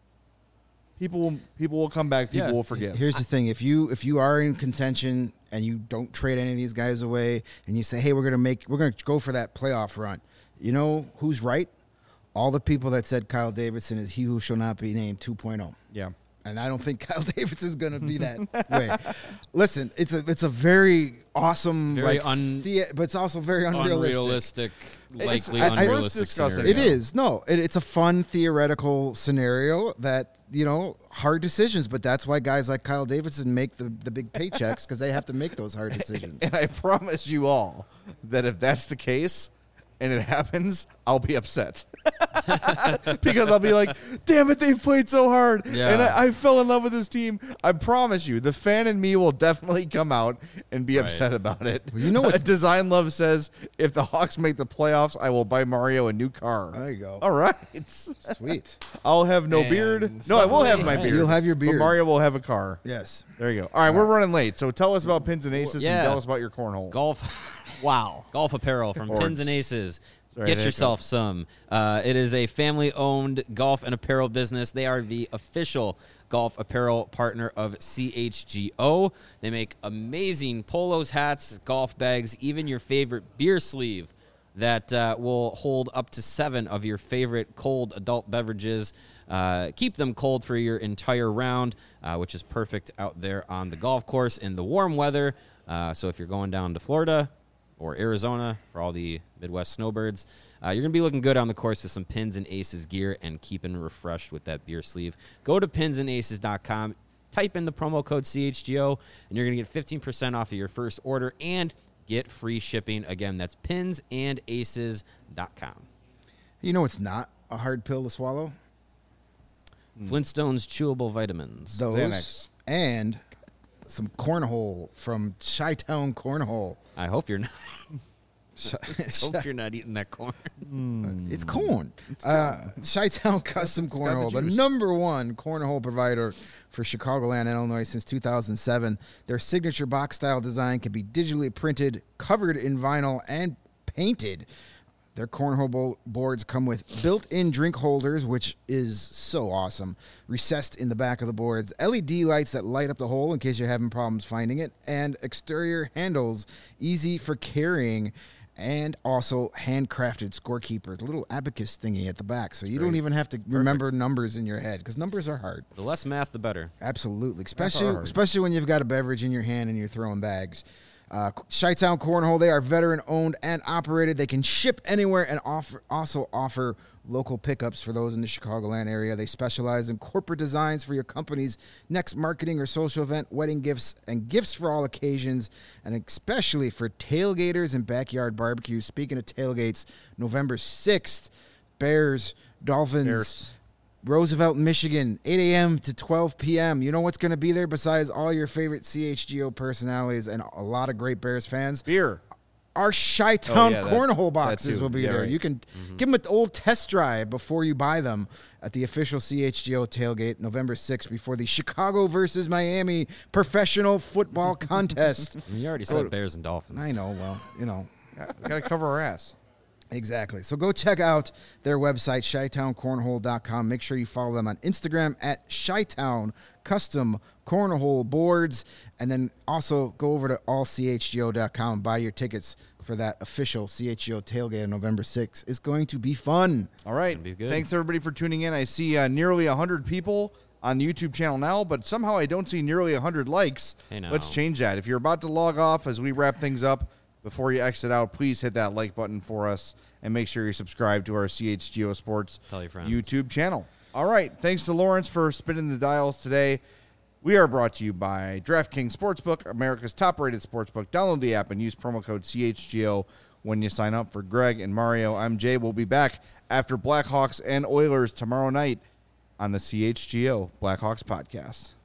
people will come back. People will forgive. Here's the thing: if you are in contention and you don't trade any of these guys away, and you say, "Hey, we're gonna go for that playoff run," you know who's right? All the people that said Kyle Davidson is he who shall not be named 2.0. Yeah. And I don't think Kyle Davidson is going to be that way. Listen, it's a very awesome, Very but it's also very unrealistic. Likely it's unrealistic worth discussing. scenario. It is. No, it's a fun theoretical scenario that, hard decisions, but that's why guys like Kyle Davidson make the big paychecks because they have to make those hard decisions. And I promise you all that if that's the case and it happens, I'll be upset. Because I'll be like, damn it, they played so hard. Yeah. And I fell in love with this team. I promise you, the fan in me will definitely come out and be Right. upset about it. Well, you know what- Design Love says, if the Hawks make the playoffs, I will buy Mario a new car. There you go. All right. Sweet. I'll have no And beard. No, I will have my somebody- beard. You'll have your But beard. Mario will have a car. Yes. There you go. All right, we're running late. So tell us about Pins and Aces Yeah. and tell us about your cornhole. Wow. Golf apparel from Boards. Pins and Aces. Sorry, Get there you yourself some. It is a family-owned golf and apparel business. They are the official golf apparel partner of CHGO. They make amazing polos, hats, golf bags, even your favorite beer sleeve that will hold up to 7 of your favorite cold adult beverages. Keep them cold for your entire round, which is perfect out there on the golf course in the warm weather. So if you're going down to Florida or Arizona for all the Midwest snowbirds, you're going to be looking good on the course with some Pins and Aces gear and keeping refreshed with that beer sleeve. Go to pinsandaces.com, type in the promo code CHGO, and you're going to get 15% off of your first order and get free shipping. Again, that's pinsandaces.com. You know it's not a hard pill to swallow? Flintstones chewable vitamins. Those Xanax. and some cornhole from Chi-Town Cornhole. I hope you're not. Hope you're not eating that corn. It's corn. Chi-Town Custom got Cornhole, the the juice. #1 cornhole provider for Chicagoland, Illinois since 2007. Their signature box-style design can be digitally printed, covered in vinyl, and painted. Their cornhole boards come with built-in drink holders, which is so awesome, recessed in the back of the boards, LED lights that light up the hole in case you're having problems finding it, and exterior handles, easy for carrying, and also handcrafted scorekeepers, a little abacus thingy at the back, so you don't even have to remember numbers in your head, because numbers are hard. The less math, the better. Absolutely, hard. especially when you've got a beverage in your hand and you're throwing bags. Chi-Town Cornhole, they are veteran-owned and operated. They can ship anywhere and also offer local pickups for those in the Chicagoland area. They specialize in corporate designs for your company's next marketing or social event, wedding gifts, and gifts for all occasions, and especially for tailgaters and backyard barbecues. Speaking of tailgates, November 6th, Bears, Dolphins, Roosevelt, Michigan, 8 a.m. to 12 p.m. You know what's going to be there besides all your favorite CHGO personalities and a lot of great Bears fans? Beer. Our Chi-Town yeah, that Cornhole boxes too. will be Yeah, there. right. You can give them an old test drive before you buy them at the official CHGO tailgate November 6th before the Chicago versus Miami professional football contest. You already said Bears and Dolphins. I know, well, you know. We got to cover our ass. Exactly. So go check out their website, ChiTownCornhole.com. Make sure you follow them on Instagram at Chi-Town Custom Cornhole Boards. And then also go over to allchgo.com and buy your tickets for that official CHGO tailgate on November 6th. It's going to be fun. All right. Gonna be good. Thanks, everybody, for tuning in. I see nearly 100 people on the YouTube channel now, but somehow I don't see nearly 100 likes. Hey, now. Let's change that. If you're about to log off as we wrap things up, before you exit out, please hit that like button for us and make sure you subscribe to our CHGO Sports Tell your friends. YouTube channel. All right. Thanks to Lawrence for spinning the dials today. We are brought to you by DraftKings Sportsbook, America's top-rated sportsbook. Download the app and use promo code CHGO when you sign up. For Greg and Mario, I'm Jay. We'll be back after Blackhawks and Oilers tomorrow night on the CHGO Blackhawks podcast.